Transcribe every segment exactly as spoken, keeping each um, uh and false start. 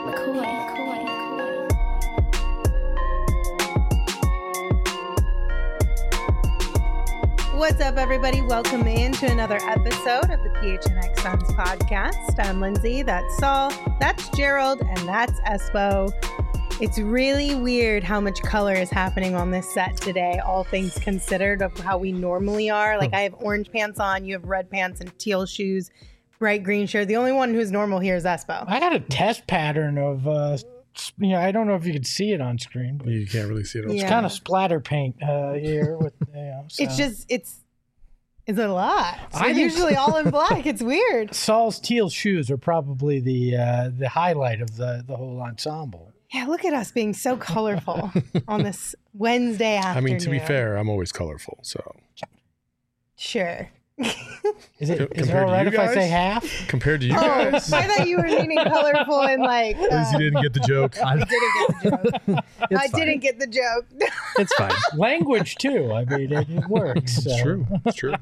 McCoy, McCoy, McCoy. What's up, everybody? Welcome in to another episode of the P H N X Suns podcast. I'm Lindsay, that's Saul, that's Gerald, and that's Espo. It's really weird how much color is happening on this set today, all things considered, of how we normally are. Like, I have orange pants on, you have red pants and teal shoes, bright green shirt. The only one who's normal here is Espo. I got a test pattern of, uh, you know, I don't know if you can see it on screen, but You can't really see it. On it's Yeah. kind of splatter paint uh, here. With, you know, so. It's just, it's, it's a lot. So I think- usually all in black. It's weird. Saul's teal shoes are probably the uh, the highlight of the, the whole ensemble. Yeah, look at us being so colorful on this Wednesday I afternoon. mean, to be fair, I'm always colorful. So Sure. Is it Co- is it compared all to right you if I say guys? half? compared to you Oh, guys, I thought you were meaning colorful and like. Uh, Lindsay didn't get the joke. I didn't get the joke. I fine. didn't get the joke. It's fine. Language too. I mean, it, it works. It's so. true. It's true.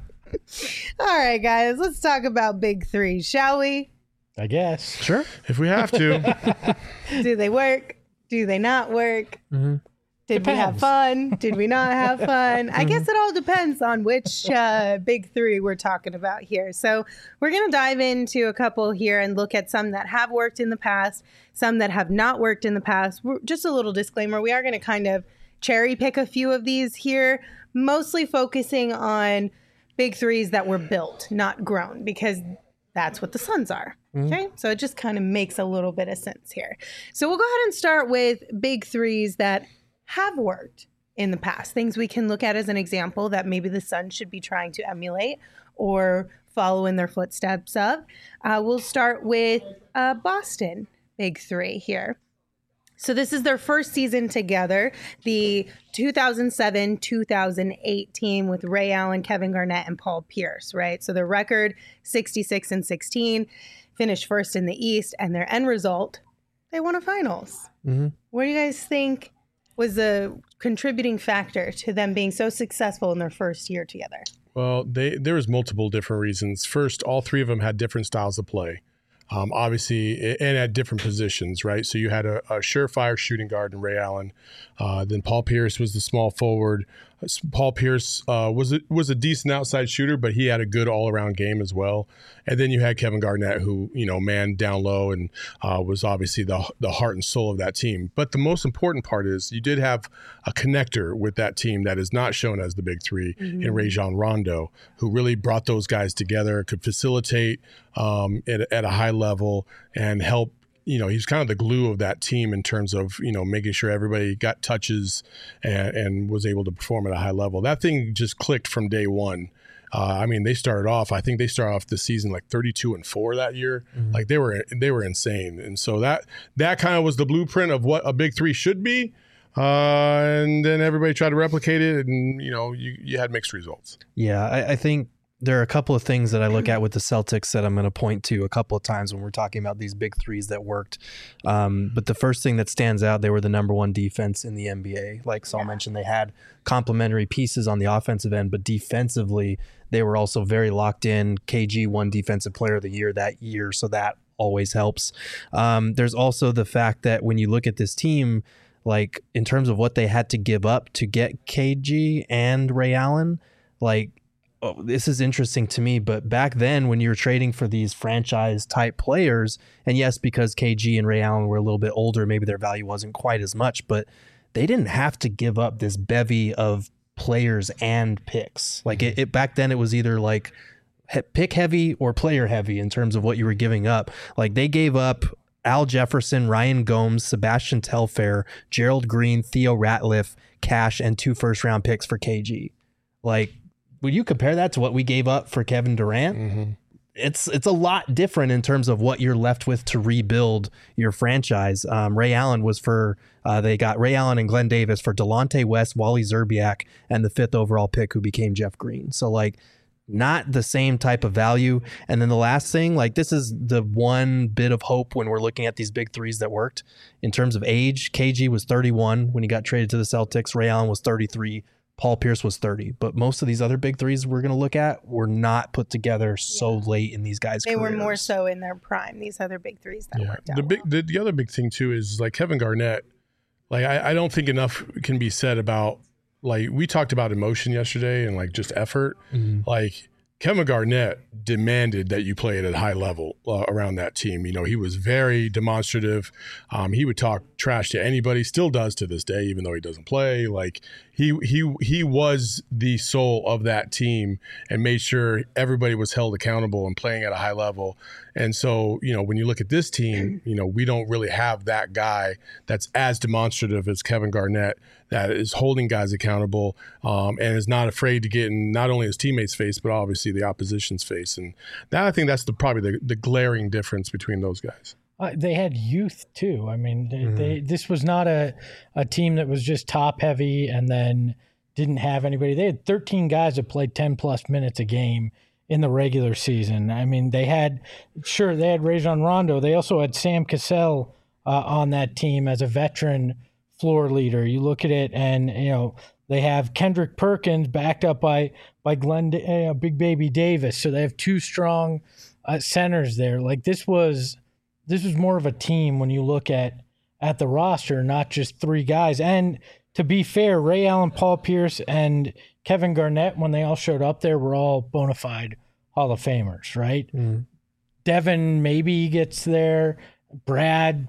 All right, guys, let's talk about big three, shall we? I guess. Sure. If we have to, Do they work? Do they not work? Mm-hmm. Did we have Depends. fun? Did we not have fun? I guess it all depends on which uh, big three we're talking about here. So we're going to dive into a couple here and look at some that have worked in the past, some that have not worked in the past. We're, just a little disclaimer, we are going to kind of cherry pick a few of these here, mostly focusing on big threes that were built, not grown, because that's what the Suns are. Okay. So it just kind of makes a little bit of sense here. So we'll go ahead and start with big threes that have worked in the past, things we can look at as an example that maybe the Suns should be trying to emulate or follow in their footsteps of. Uh, we'll start with uh, Boston big three here. So this is their first season together, the two thousand seven two thousand eight team with Ray Allen, Kevin Garnett, and Paul Pierce, right? So their record, sixty-six and sixteen, finished first in the East, and their end result, they won a finals. Mm-hmm. What do you guys think was a contributing factor to them being so successful in their first year together? well, they there was multiple different reasons. First, all three of them had different styles of play. Um, obviously, and at different positions, right? So you had a, a surefire shooting guard in Ray Allen. Uh, then Paul Pierce was the small forward. Uh, Paul Pierce uh, was a, was a decent outside shooter, but he had a good all around game as well. And then you had Kevin Garnett, who you know manned down low and uh, was obviously the the heart and soul of that team. But the most important part is you did have a connector with that team that is not shown as the big three Mm-hmm. in Rajon Rondo, who really brought those guys together, could facilitate um, at, at a high level and help. You know, he's kind of the glue of that team in terms of, you know, making sure everybody got touches and, and was able to perform at a high level. That thing just clicked from day one. Uh, I mean, they started off, I think they started off the season like thirty-two and four that year. Mm-hmm. Like they were, they were insane. And so that, that kind of was the blueprint of what a big three should be. Uh, and then everybody tried to replicate it and, you know, you, you had mixed results. Yeah, I, I think there are a couple of things that I look at with the Celtics that I'm going to point to a couple of times when we're talking about these big threes that worked. Um, but the first thing that stands out, they were the number one defense in the N B A. Like Saul mentioned, they had complementary pieces on the offensive end, but defensively, they were also very locked in. K G won Defensive Player of the Year that year, so that always helps. Um, there's also the fact that when you look at this team, like in terms of what they had to give up to get K G and Ray Allen, like, oh, this is interesting to me, but back then when you were trading for these franchise type players, and yes, because K G and Ray Allen were a little bit older, maybe their value wasn't quite as much, but they didn't have to give up this bevy of players and picks. Like it, it back then it was either like he- pick heavy or player heavy in terms of what you were giving up. Like they gave up Al Jefferson, Ryan Gomes, Sebastian Telfair, Gerald Green, Theo Ratliff, Cash, and two first round picks for K G. Like, would you compare that to what we gave up for Kevin Durant? Mm-hmm. It's it's a lot different in terms of what you're left with to rebuild your franchise. Um, Ray Allen was for, uh, they got Ray Allen and Glenn Davis for Delonte West, Wally Zerbiak, and the fifth overall pick who became Jeff Green. So like not the same type of value. And then the last thing, like this is the one bit of hope when we're looking at these big threes that worked. In terms of age, K G was thirty-one when he got traded to the Celtics. Ray Allen was thirty-three. Paul Pierce was thirty. But most of these other big threes we're going to look at were not put together so Yeah. late in these guys' They careers. were more so in their prime. These other big threes that Yeah. worked out. The big, well. the, the other big thing too is like Kevin Garnett. Like I, I don't think enough can be said about like we talked about emotion yesterday and like just effort. Mhm. Like Kevin Garnett demanded that you play at a high level uh, around that team. You know, he was very demonstrative. Um, he would talk trash to anybody, still does to this day, even though he doesn't play. Like he he he was the soul of that team and made sure everybody was held accountable and playing at a high level. And so, you know, when you look at this team, you know, we don't really have that guy that's as demonstrative as Kevin Garnett, that is holding guys accountable um, and is not afraid to get in not only his teammates' face, but obviously the opposition's face. And that, I think that's the probably the, the glaring difference between those guys. Uh, they had youth too. I mean, they, Mhm. they this was not a, a team that was just top heavy and then didn't have anybody. They had thirteen guys that played ten plus minutes a game in the regular season. I mean, they had, sure, they had Rajon Rondo. They also had Sam Cassell uh, on that team as a veteran floor leader. You look at it and, you know, they have Kendrick Perkins backed up by, by Glenn, uh, Big Baby Davis. So they have two strong uh, centers there. Like this was, this was more of a team when you look at, at the roster, not just three guys. And to be fair, Ray Allen, Paul Pierce, and Kevin Garnett, when they all showed up there, were all bona fide Hall of Famers, right? Mhm. Devin maybe gets there. Brad,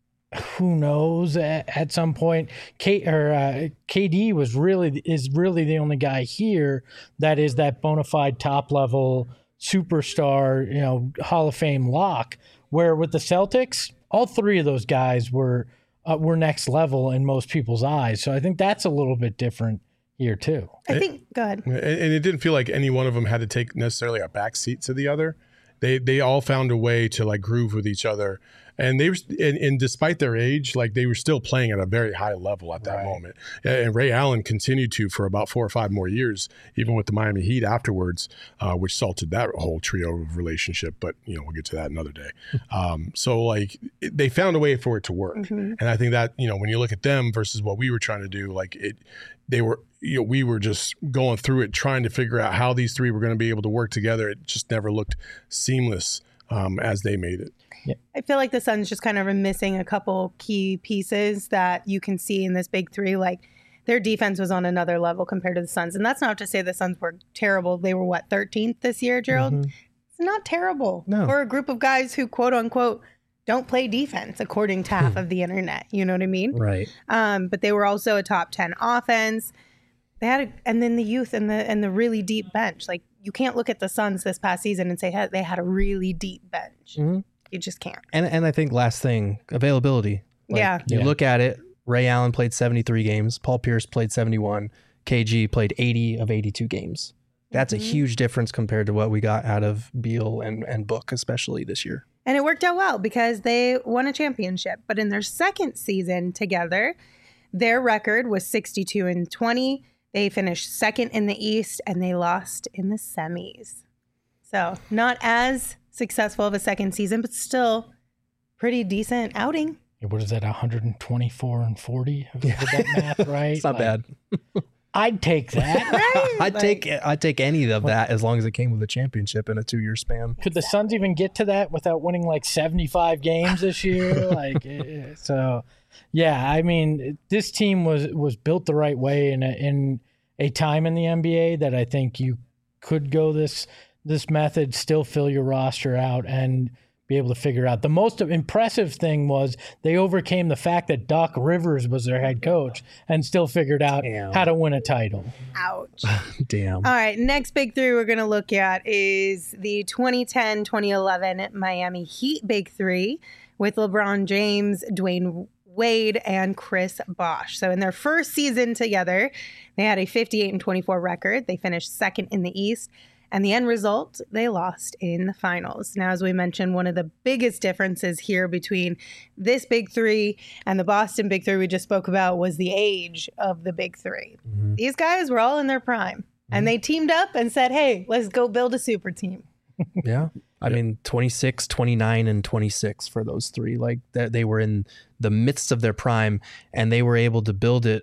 who knows? At, at some point, K or uh, K D was really is really the only guy here that is that bona fide top level superstar, you know, Hall of Fame lock. Where with the Celtics, all three of those guys were uh, were next level in most people's eyes. So I think that's a little bit different here too. I think, go ahead. And, and it didn't feel like any one of them had to take necessarily a back seat to the other. They they all found a way to like groove with each other. And they were, and, and despite their age, like they were still playing at a very high level at that Right. moment. And Ray Allen continued to for about four or five more years, even with the Miami Heat afterwards, uh, which salted that whole trio of relationship. But you know, we'll get to that another day. Um, so like it, they found a way for it to work, Mhm. and I think that you know when you look at them versus what we were trying to do, like it, they were you know we were just going through it trying to figure out how these three were going to be able to work together. It just never looked seamless um, as they made it. I feel like the Suns just kind of are missing a couple key pieces that you can see in this big three. Like their defense was on another level compared to the Suns. And that's not to say the Suns were terrible. They were what, thirteenth this year, Gerald? Mhm. It's not terrible No. for a group of guys who quote unquote don't play defense according to half Hmm. of the internet. You know what I mean? Right. Um, but they were also a top ten offense. They had, a, and then the youth and the and the really deep bench. Like you can't look at the Suns this past season and say hey, they had a really deep bench. Mhm. You just can't. And and I think last thing, availability. Like, Yeah. You Yeah. look at it, Ray Allen played seventy-three games, Paul Pierce played seventy-one, K G played eighty of eighty-two games. That's Mhm. a huge difference compared to what we got out of Beal and, and Book, especially this year. And it worked out well because they won a championship. But in their second season together, their record was sixty-two and twenty. They finished second in the East and they lost in the semis. So not as successful of a second season, but still pretty decent outing. What is that, one hundred twenty-four and forty? Did that math right? It's not Like, bad. I'd take that. Right? I'd Like- take I'd take any of that as long as it came with a championship in a two year span. Could the Suns even get to that without winning like seventy-five games this year? Like, eh, so, yeah. I mean, this team was was built the right way in a, in a time in the N B A that I think you could go this this method, still fill your roster out, and be able to figure out. The most impressive thing was they overcame the fact that Doc Rivers was their head coach and still figured out Damn. how to win a title. Ouch. Damn. All right, next big three we're going to look at is the twenty ten twenty eleven Miami Heat big three with LeBron James, Dwayne Wade, and Chris Bosh. So in their first season together, they had a fifty-eight and twenty-four record. They finished second in the East. And the end result, they lost in the finals. Now, as we mentioned, one of the biggest differences here between this big three and the Boston big three we just spoke about was the age of the big three. Mhm. These guys were all in their prime. And they teamed up and said, hey, let's go build a super team. Yeah. I mean, twenty-six, twenty-nine, and twenty-six for those three. Like that, they were in the midst of their prime and they were able to build it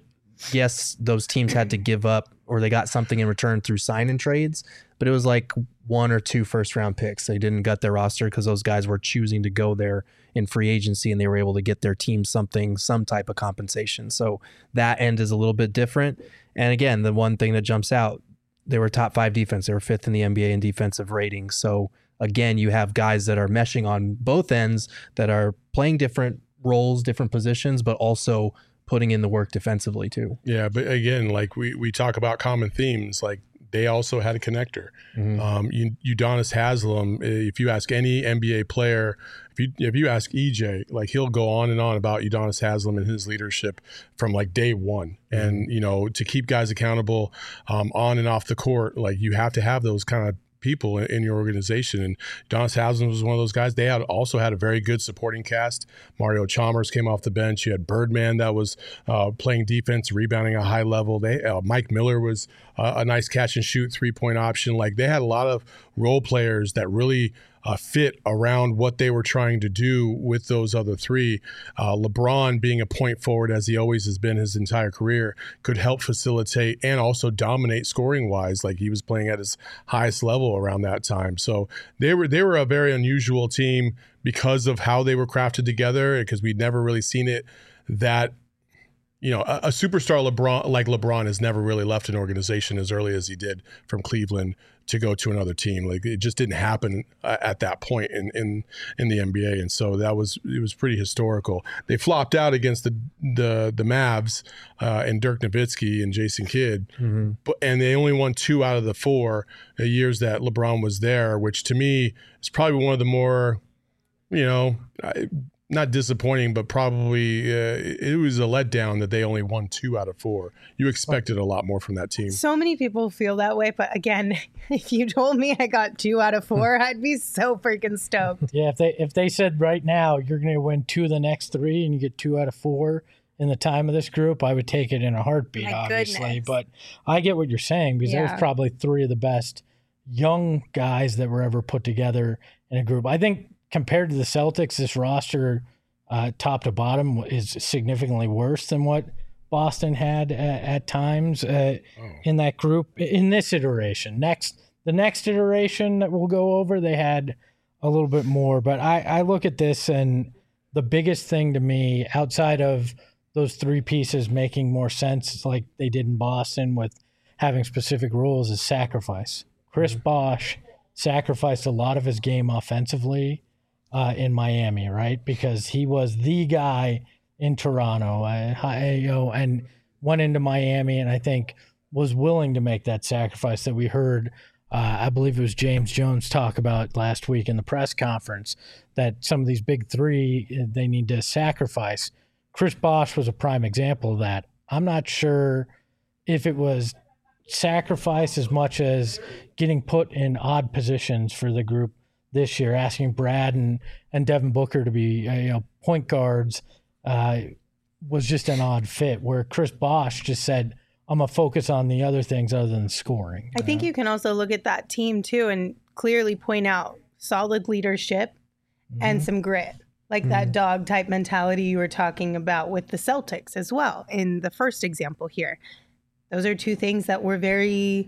yes, those teams had to give up or they got something in return through sign and trades, but it was like one or two first round picks. They didn't gut their roster because those guys were choosing to go there in free agency and they were able to get their team something, some type of compensation. So that end is a little bit different. And again, the one thing that jumps out, they were top five defense. They were fifth in the N B A in defensive rating. So again, you have guys that are meshing on both ends that are playing different roles, different positions, but also putting in the work defensively too. Yeah, but again, like we, we talk about common themes, like they also had a connector. Mm-hmm. Um, Udonis Haslem, if you ask any N B A player, if you if you ask E J, like he'll go on and on about Udonis Haslem and his leadership from like day one. Mm-hmm. And, you know, to keep guys accountable um, on and off the court, like you have to have those kind of people in, in your organization. And Udonis Haslem was one of those guys. They had also had a very good supporting cast. Mario Chalmers came off the bench. You had Birdman that was uh, playing defense, rebounding at a high level. They uh, Mike Miller was uh, a nice catch and shoot three point option. Like they had a lot of role players that really Uh, fit around what they were trying to do with those other three. Uh, LeBron, being a point forward as he always has been his entire career, could help facilitate and also dominate scoring wise. Like he was playing at his highest level around that time. So they were they were a very unusual team because of how they were crafted together, because we'd never really seen it that. You know, a, a superstar LeBron like LeBron has never really left an organization as early as he did from Cleveland to go to another team. Like it just didn't happen uh, at that point in, in in the N B A, and so that was it was pretty historical. They flopped out against the the the Mavs uh, and Dirk Nowitzki and Jason Kidd, mm-hmm. but and they only won two out of the four uh, years that LeBron was there, which to me is probably one of the more, you know. I, Not disappointing, but probably uh, it was a letdown that they only won two out of four. You expected a lot more from that team. So many people feel that way, but again, if you told me I got two out of four, I'd be so freaking stoked. Yeah, if they if they said right now you're going to win two of the next three and you get two out of four in the time of this group, I would take it in a heartbeat, My obviously. goodness. But I get what you're saying because Yeah. there's probably three of the best young guys that were ever put together in a group. I think compared to the Celtics, this roster uh, top to bottom is significantly worse than what Boston had at, at times uh, oh. in that group in this iteration. Next, the next iteration that we'll go over, they had a little bit more. But I, I look at this, and the biggest thing to me outside of those three pieces making more sense, like they did in Boston with having specific rules, is sacrifice. Chris mm-hmm. Bosh sacrificed a lot of his game offensively uh, in Miami, right? Because he was the guy in Toronto, uh, you know, and went into Miami, and I think was willing to make that sacrifice that we heard. Uh, I believe it was James Jones talk about last week in the press conference, that some of these big three, they need to sacrifice. Chris Bosh was a prime example of that. I'm not sure if it was sacrifice as much as getting put in odd positions for the group this year, asking Brad and, and Devin Booker to be uh, you know point guards uh, was just an odd fit, where Chris Bosh just said, I'm going to focus on the other things other than scoring. I think you can also look at that team too and clearly point out solid leadership mm-hmm. and some grit, like mm-hmm. that dog type mentality you were talking about with the Celtics as well in the first example here. Those are two things that were very,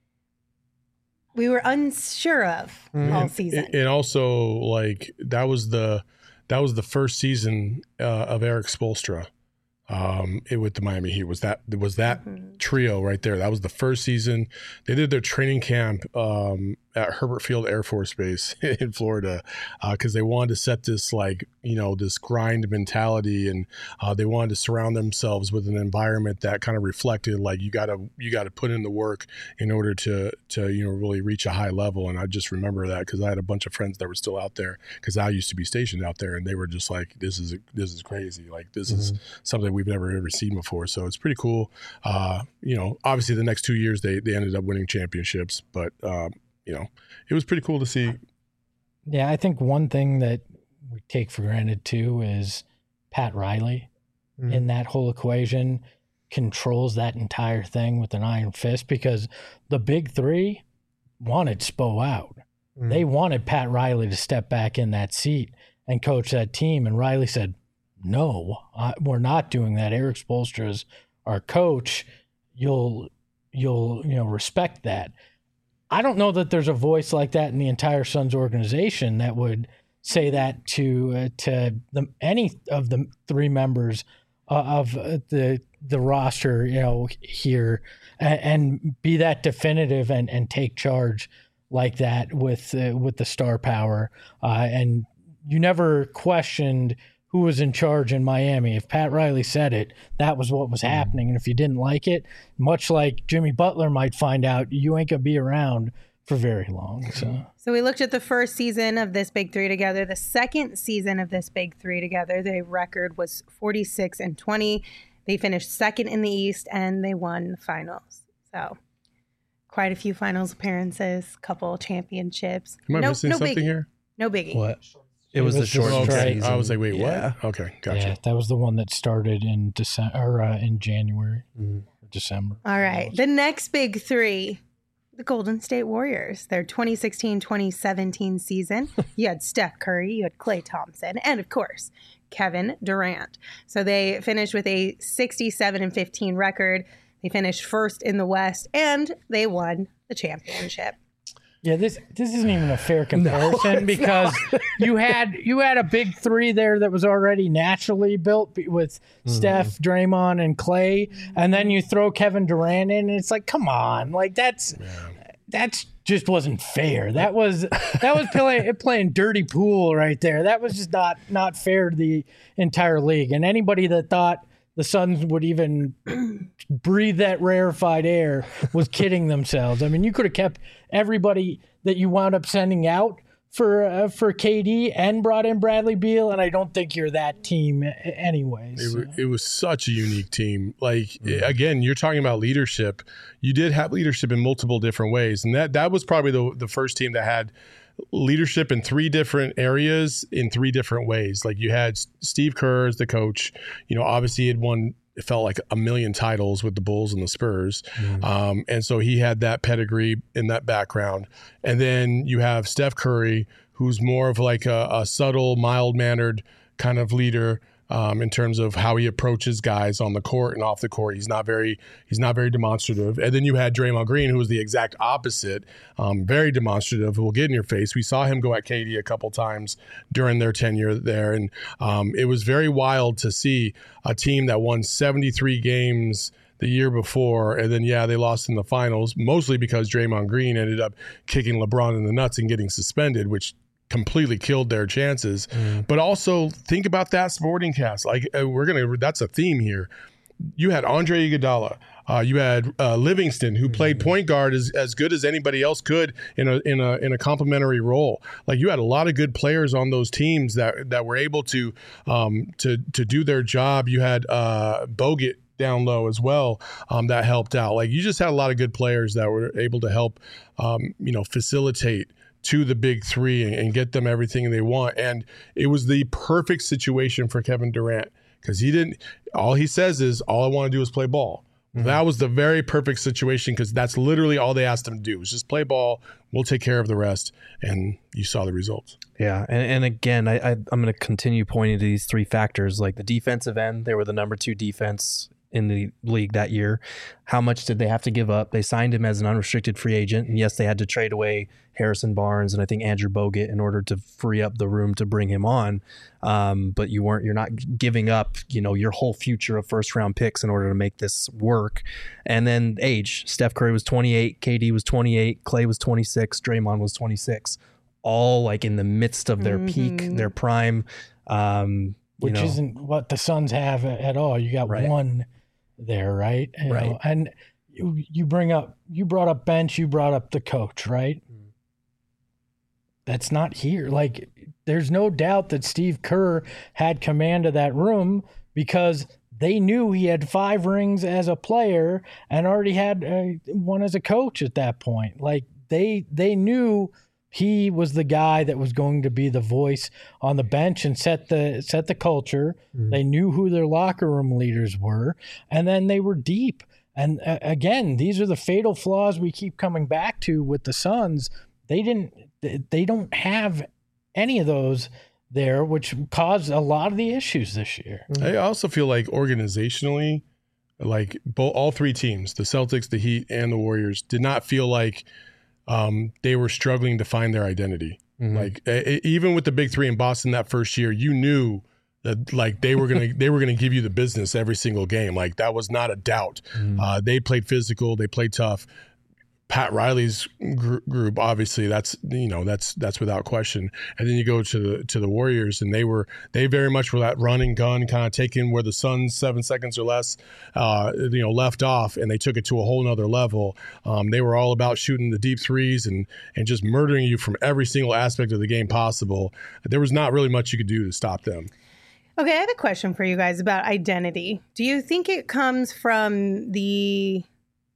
we were unsure of mm-hmm. all season. And also, like, that was the, that was the first season uh, of Eric Spoelstra. Um, it with the Miami Heat was that was that mm-hmm. trio right there. That was the first season. They did their training camp um, at Herbert Field Air Force Base in Florida because uh, they wanted to set this like you know this grind mentality, and uh, they wanted to surround themselves with an environment that kind of reflected like you gotta you gotta put in the work in order to to you know really reach a high level. And I just remember that because I had a bunch of friends that were still out there because I used to be stationed out there, and they were just like, this is this is crazy. Like this mm-hmm. is something we've never ever seen before. So it's pretty cool. Uh, you know, obviously the next two years they, they ended up winning championships, but um, you know, it was pretty cool to see. Yeah. I think one thing that we take for granted too is Pat Riley mm-hmm. in that whole equation controls that entire thing with an iron fist, because the big three wanted Spo out. Mm-hmm. They wanted Pat Riley to step back in that seat and coach that team. And Riley said, no, I, we're not doing that. Eric Spoelstra is our coach, you'll you'll you know respect that. I don't know that there's a voice like that in the entire Suns organization that would say that to uh, to the, any of the three members uh, of uh, the the roster, you know, here, and, and be that definitive and, and take charge like that with uh, with the star power. Uh, and you never questioned who was in charge in Miami. If Pat Riley said it, that was what was happening. And if you didn't like it, much like Jimmy Butler might find out, you ain't gonna be around for very long. So. So we looked at the first season of this Big Three together. The second season of this Big Three together, their record was forty-six and twenty. They finished second in the East, and they won the finals. So quite a few finals appearances, couple championships. Am I no, missing no something biggie. here? No biggie. What? It, It was, was the short the Okay. strike. I was like, wait, Yeah. what? Okay, gotcha. Yeah, that was the one that started in December or uh, in January, Mhm. or December. All right. The next Big Three, the Golden State Warriors. Their twenty sixteen twenty seventeen season. You had Steph Curry, you had Klay Thompson, and of course, Kevin Durant. So they finished with a sixty-seven and fifteen record. They finished first in the West, and they won the championship. Yeah, this this isn't even a fair comparison because you had you had a big three there that was already naturally built with Steph, Draymond, and Clay, and then you throw Kevin Durant in, and it's like, come on, like that's that's just wasn't fair. That was that was playing playing dirty pool right there. That was just not not fair to the entire league. And anybody that thought the Suns would even breathe that rarefied air was kidding themselves. I mean, you could have kept everybody that you wound up sending out for uh, for K D and brought in Bradley Beal, and I don't think you're that team anyways. It, wa- it was such a unique team. Like, again, you're talking about leadership. You did have leadership in multiple different ways. And that, that was probably the, the first team that had leadership in three different areas in three different ways. Like, you had S- Steve Kerr as the coach. You know, obviously he had won, it felt like a million titles with the Bulls and the Spurs. Um, and so he had that pedigree in that background. And then you have Steph Curry, who's more of like a, a subtle, mild-mannered kind of leader um, in terms of how he approaches guys on the court and off the court. He's not very he's not very demonstrative. And then you had Draymond Green, who was the exact opposite, um, very demonstrative, who will get in your face. We saw him go at K D a couple times during their tenure there. And um, it was very wild to see a team that won seventy-three games the year before, and then, yeah, they lost in the finals, mostly because Draymond Green ended up kicking LeBron in the nuts and getting suspended, which completely killed their chances. Mm. But also think about that supporting cast. Like, uh, we're gonna, that's a theme here. You had Andre Iguodala. Uh, you had uh, Livingston, who played point guard as, as good as anybody else could in a in a in a complementary role. Like, you had a lot of good players on those teams that that were able to um, to to do their job. You had uh, Bogut down low as well, um, that helped out. Like, you just had a lot of good players that were able to help, um, you know, facilitate to the big three and, and get them everything they want. And it was the perfect situation for Kevin Durant, because he didn't, all he says is, all I want to do is play ball. Mm-hmm. That was the very perfect situation, because that's literally all they asked him to do, was just play ball. We'll take care of the rest. And you saw the results. Yeah, and, and again, I, I, I'm going to continue pointing to these three factors. Like the defensive end, they were the number two defense in the league that year. How much did they have to give up? They signed him as an unrestricted free agent, and yes, they had to trade away Harrison Barnes and I think Andrew Bogut in order to free up the room to bring him on. Um, but you weren't, you're not giving up, you know, your whole future of first round picks in order to make this work. And then age, Steph Curry was twenty-eight, K D was twenty-eight, Clay was twenty-six, Draymond was twenty-six, all like in the midst of their Mm-hmm. peak, their prime. Um, you Which know. isn't what the Suns have at all. You got Right. one there, right? You Right. know, and you, you bring up, you brought up bench, you brought up the coach, right? Mm. That's not here. Like, there's no doubt that Steve Kerr had command of that room, because they knew he had five rings as a player and already had uh, one as a coach at that point. Like, they they knew he was the guy that was going to be the voice on the bench and set the set the culture. Mhm. They knew who their locker room leaders were, and then they were deep. And uh, again, these are the fatal flaws we keep coming back to with the Suns. They didn't they don't have any of those there, which caused a lot of the issues this year. I also feel like organizationally, Like both, all three teams, the Celtics, the Heat, and the Warriors, did not feel like um, they were struggling to find their identity. Mm-hmm. Like a, even with the big three in Boston that first year, you knew that like they were gonna they were gonna give you the business every single game. Like that was not a doubt. Mm-hmm. Uh, they played physical, they played tough. Pat Riley's gr- group, obviously, that's you know that's that's without question. And then you go to the to the Warriors, and they were they very much were that run and gun kind of taking where the Suns seven seconds or less, uh, you know, left off, and they took it to a whole nother level. Um, they were all about shooting the deep threes and and just murdering you from every single aspect of the game possible. There was not really much you could do to stop them. Okay, I have a question for you guys about identity. Do you think it comes from the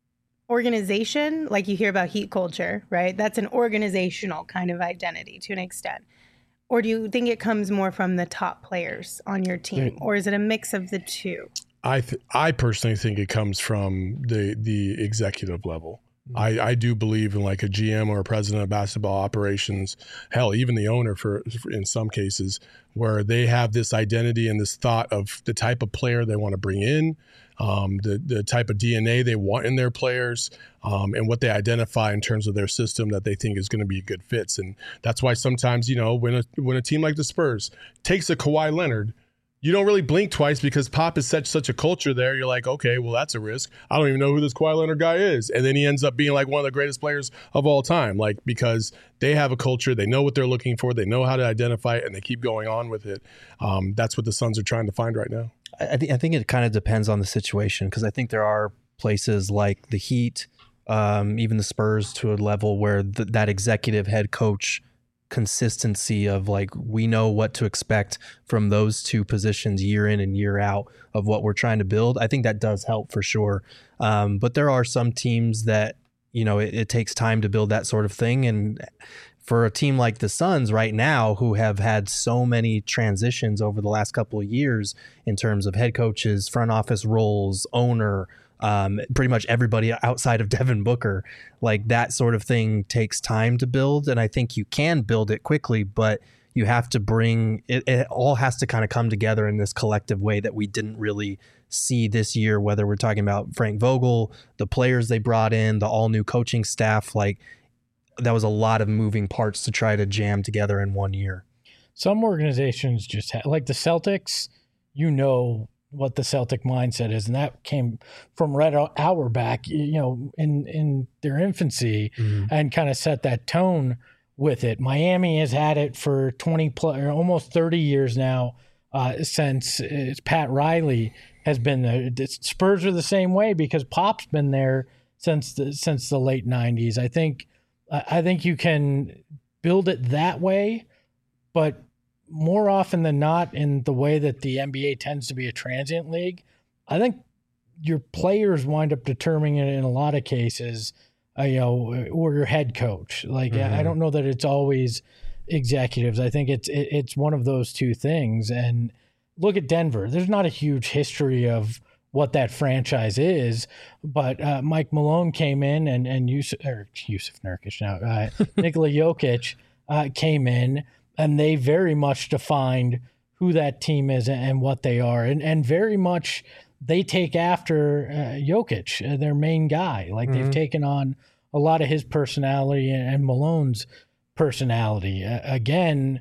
organization? Like you hear about Heat culture, right? That's an organizational kind of identity to an extent. Or do you think it comes more from the top players on your team? Or is it a mix of the two? I th- I personally think it comes from the the executive level. I, I do believe in like a G M or a president of basketball operations, hell, even the owner for, for in some cases, where they have this identity and this thought of the type of player they want to bring in, um, the the type of D N A they want in their players, um, and what they identify in terms of their system that they think is going to be good fits. And that's why sometimes, you know, when a when a team like the Spurs takes a Kawhi Leonard, you don't really blink twice because Pop is such such a culture there. You're like, okay, well, that's a risk. I don't even know who this Kawhi Leonard guy is. And then he ends up being like one of the greatest players of all time, like because they have a culture. They know what they're looking for. They know how to identify it, and they keep going on with it. Um, that's what the Suns are trying to find right now. I, th- I think it kind of depends on the situation because I think there are places like the Heat, um, even the Spurs to a level where th- that executive head coach consistency of like we know what to expect from those two positions year in and year out of what we're trying to build. I think that does help for sure. Um, but there are some teams that, you know, it, it takes time to build that sort of thing. And for a team like the Suns right now, who have had so many transitions over the last couple of years in terms of head coaches, front office roles, owner, Um, pretty much everybody outside of Devin Booker, like that sort of thing takes time to build. And I think you can build it quickly, but you have to bring it, it all has to kind of come together in this collective way that we didn't really see this year, whether we're talking about Frank Vogel, the players they brought in, the all new coaching staff. Like that was a lot of moving parts to try to jam together in one year. Some organizations just have, like the Celtics, you know, what the Celtic mindset is, and that came from Red Auerbach, you know, in in their infancy, mm-hmm. and kind of set that tone with it. Miami has had it for twenty plus, or almost thirty years now, uh, since it's Pat Riley has been there. The Spurs are the same way because Pop's been there since the since the late nineties. I think I think you can build it that way, but more often than not, in the way that the N B A tends to be a transient league, I think your players wind up determining it in a lot of cases, uh, you know, or your head coach. Like, mm-hmm. I don't know that it's always executives. I think it's it, it's one of those two things. And look at Denver. There's not a huge history of what that franchise is, but uh, Mike Malone came in and and Yusuf, or Yusuf Nurkic now, uh, Nikola Jokic uh, came in. And they very much defined who that team is and what they are. And and very much they take after uh, Jokic, uh, their main guy. Like mm-hmm. they've taken on a lot of his personality and, and Malone's personality. Uh, again,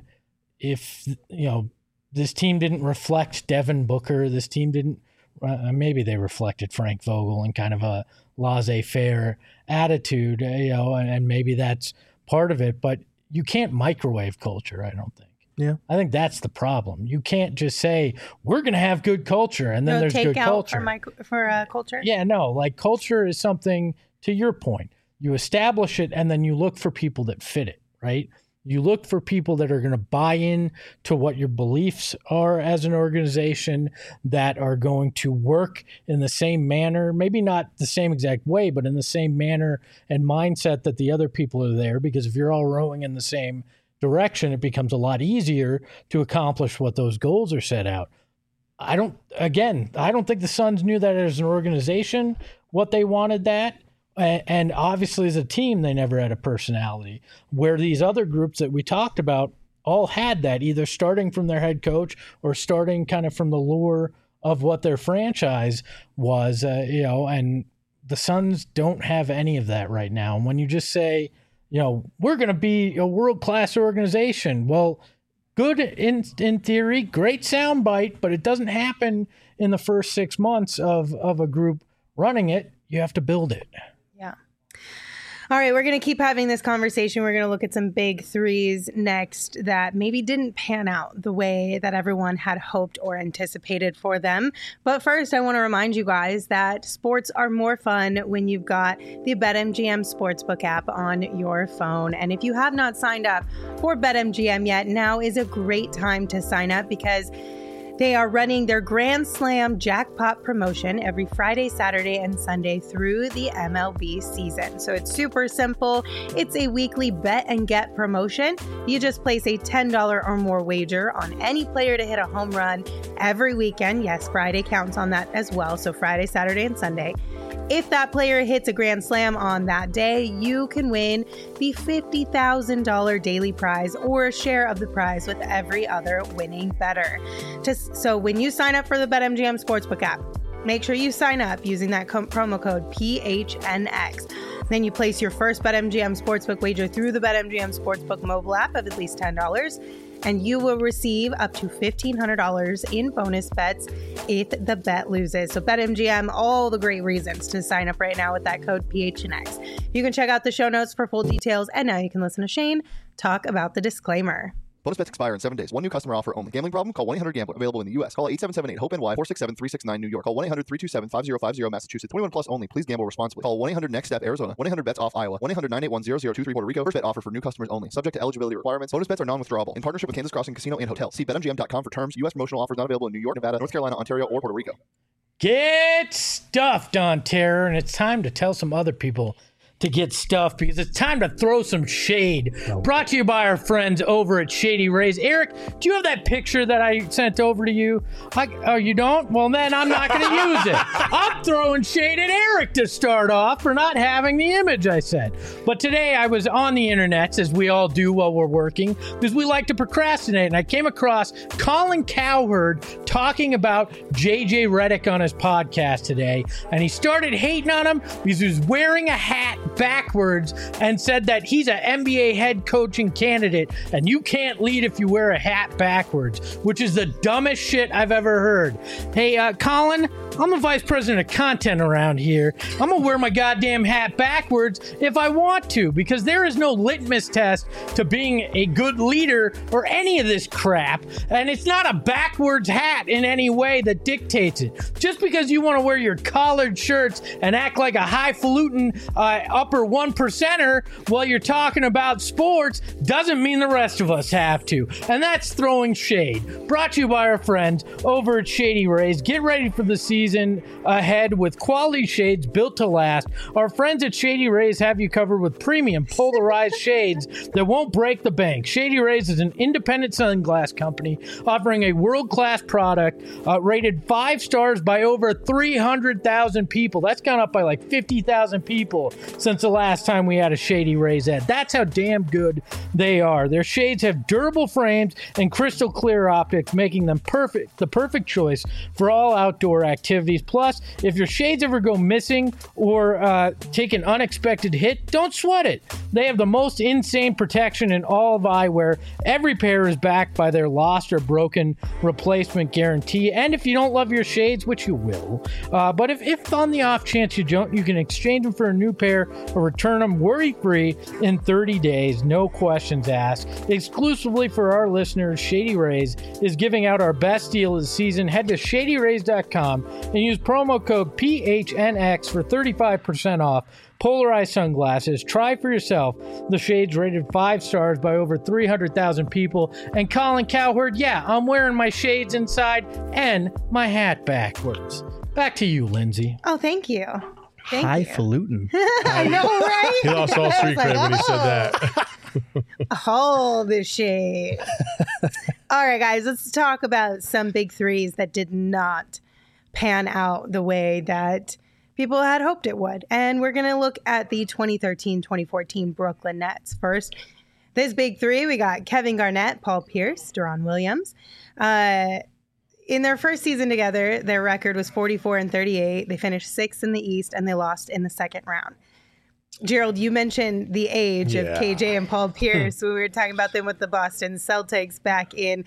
if, you know, this team didn't reflect Devin Booker, this team didn't, uh, maybe they reflected Frank Vogel and kind of a laissez-faire attitude, uh, you know, and, and maybe that's part of it. But you can't microwave culture, I don't think. Yeah. I think that's the problem. You can't just say, we're going to have good culture, and then no there's take good out culture. For, my, for uh, culture? Yeah, no. Like, culture is something, to your point, you establish it, and then you look for people that fit it, right? You look for people that are going to buy in to what your beliefs are as an organization, that are going to work in the same manner, maybe not the same exact way, but in the same manner and mindset that the other people are there. Because if you're all rowing in the same direction, it becomes a lot easier to accomplish what those goals are set out. I don't, again, I don't think the Suns knew that as an organization, what they wanted that. And obviously, as a team, they never had a personality, where these other groups that we talked about all had that, either starting from their head coach or starting kind of from the lower of what their franchise was, uh, you know, and the Suns don't have any of that right now. And when you just say, you know, we're going to be a world-class organization, well, good in in theory, great soundbite, but it doesn't happen in the first six months of, of a group running it. You have to build it. Yeah. All right, we're going to keep having this conversation. We're going to look at some big threes next that maybe didn't pan out the way that everyone had hoped or anticipated for them. But first, I want to remind you guys that sports are more fun when you've got the BetMGM Sportsbook app on your phone. And if you have not signed up for BetMGM yet, now is a great time to sign up because they are running their Grand Slam jackpot promotion every Friday, Saturday, and Sunday through the M L B season. So it's super simple. It's a weekly bet and get promotion. You just place a ten dollars or more wager on any player to hit a home run every weekend. Yes, Friday counts on that as well. So Friday, Saturday, and Sunday. If that player hits a grand slam on that day, you can win the fifty thousand dollars daily prize or a share of the prize with every other winning bettor. Just, so when you sign up for the BetMGM Sportsbook app, make sure you sign up using that com- promo code P H N X. Then you place your first BetMGM Sportsbook wager through the BetMGM Sportsbook mobile app of at least ten dollars. And you will receive up to fifteen hundred dollars in bonus bets if the bet loses. So BetMGM, all the great reasons to sign up right now with that code P H N X. You can check out the show notes for full details. And now you can listen to Shane talk about the disclaimer. Bonus bets expire in seven days. One new customer offer only. Gambling problem? Call one eight hundred gambler. Available in the U S. Call eight seven seven eight hope N Y four six seven three six nine New York. Call one eight hundred three two seven five zero five zero Massachusetts. twenty-one plus only. Please gamble responsibly. Call one eight hundred next step Arizona. one eight hundred bets off Iowa. one eight hundred nine eight one zero zero two three Puerto Rico. First bet offer for new customers only. Subject to eligibility requirements. Bonus bets are non-withdrawable. In partnership with Kansas Crossing Casino and Hotel. See bet M G M dot com for terms. U S promotional offers not available in New York, Nevada, North Carolina, Ontario, or Puerto Rico. Get stuffed on Terror, and it's time to tell some other people to get stuffed because it's time to throw some shade. Brought to you by our friends over at Shady Rays. Eric, do you have that picture that I sent over to you? I, oh, you don't? Well, then I'm not going to use it. I'm throwing shade at Eric to start off for not having the image I sent. But today I was on the internet, as we all do while we're working, because we like to procrastinate. And I came across Colin Cowherd talking about J J Redick on his podcast today. And he started hating on him because he was wearing a hat backwards and said that he's an N B A head coaching candidate and you can't lead if you wear a hat backwards, which is the dumbest shit I've ever heard. Hey, uh, Colin, I'm the vice president of content around here. I'm gonna wear my goddamn hat backwards if I want to, because there is no litmus test to being a good leader or any of this crap, and it's not a backwards hat in any way that dictates it. Just because you want to wear your collared shirts and act like a highfalutin uh, upper one percenter while you're talking about sports doesn't mean the rest of us have to. And that's throwing shade. Brought to you by our friends over at Shady Rays. Get ready for the season ahead with quality shades built to last. Our friends at Shady Rays have you covered with premium polarized shades that won't break the bank. Shady Rays is an independent sunglass company offering a world-class product uh, rated five stars by over three hundred thousand people. That's gone up by like fifty thousand people since the last time we had a Shady Rays ad. That's how damn good they are. Their shades have durable frames and crystal clear optics, making them perfect, the perfect choice for all outdoor activities. Plus, if your shades ever go missing or uh, take an unexpected hit, don't sweat it. They have the most insane protection in all of eyewear. Every pair is backed by their lost or broken replacement guarantee. And if you don't love your shades, which you will, uh, but if, if on the off chance you don't, you can exchange them for a new pair or return them worry-free in thirty days, no questions asked. Exclusively for our listeners, Shady Rays is giving out our best deal of the season. Head to shady rays dot com and use promo code P H N X for thirty-five percent off polarized sunglasses. Try for yourself the shades rated five stars by over three hundred thousand people. And Colin Cowherd, yeah, I'm wearing my shades inside and my hat backwards. Back to you, Lindsay. Oh, thank you. Thank Highfalutin. I know, right? He lost all street I was cred like, when he said oh. that. All the shade. All right, guys, let's talk about some big threes that did not pan out the way that people had hoped it would. And we're going to look at the twenty thirteen twenty fourteen Brooklyn Nets first. This big three, we got Kevin Garnett, Paul Pierce, Deron Williams. Uh, in their first season together, their record was forty-four and thirty-eight. They finished sixth in the East, and they lost in the second round. Gerald, you mentioned the age Yeah. of K J and Paul Pierce when we were talking about them with the Boston Celtics back in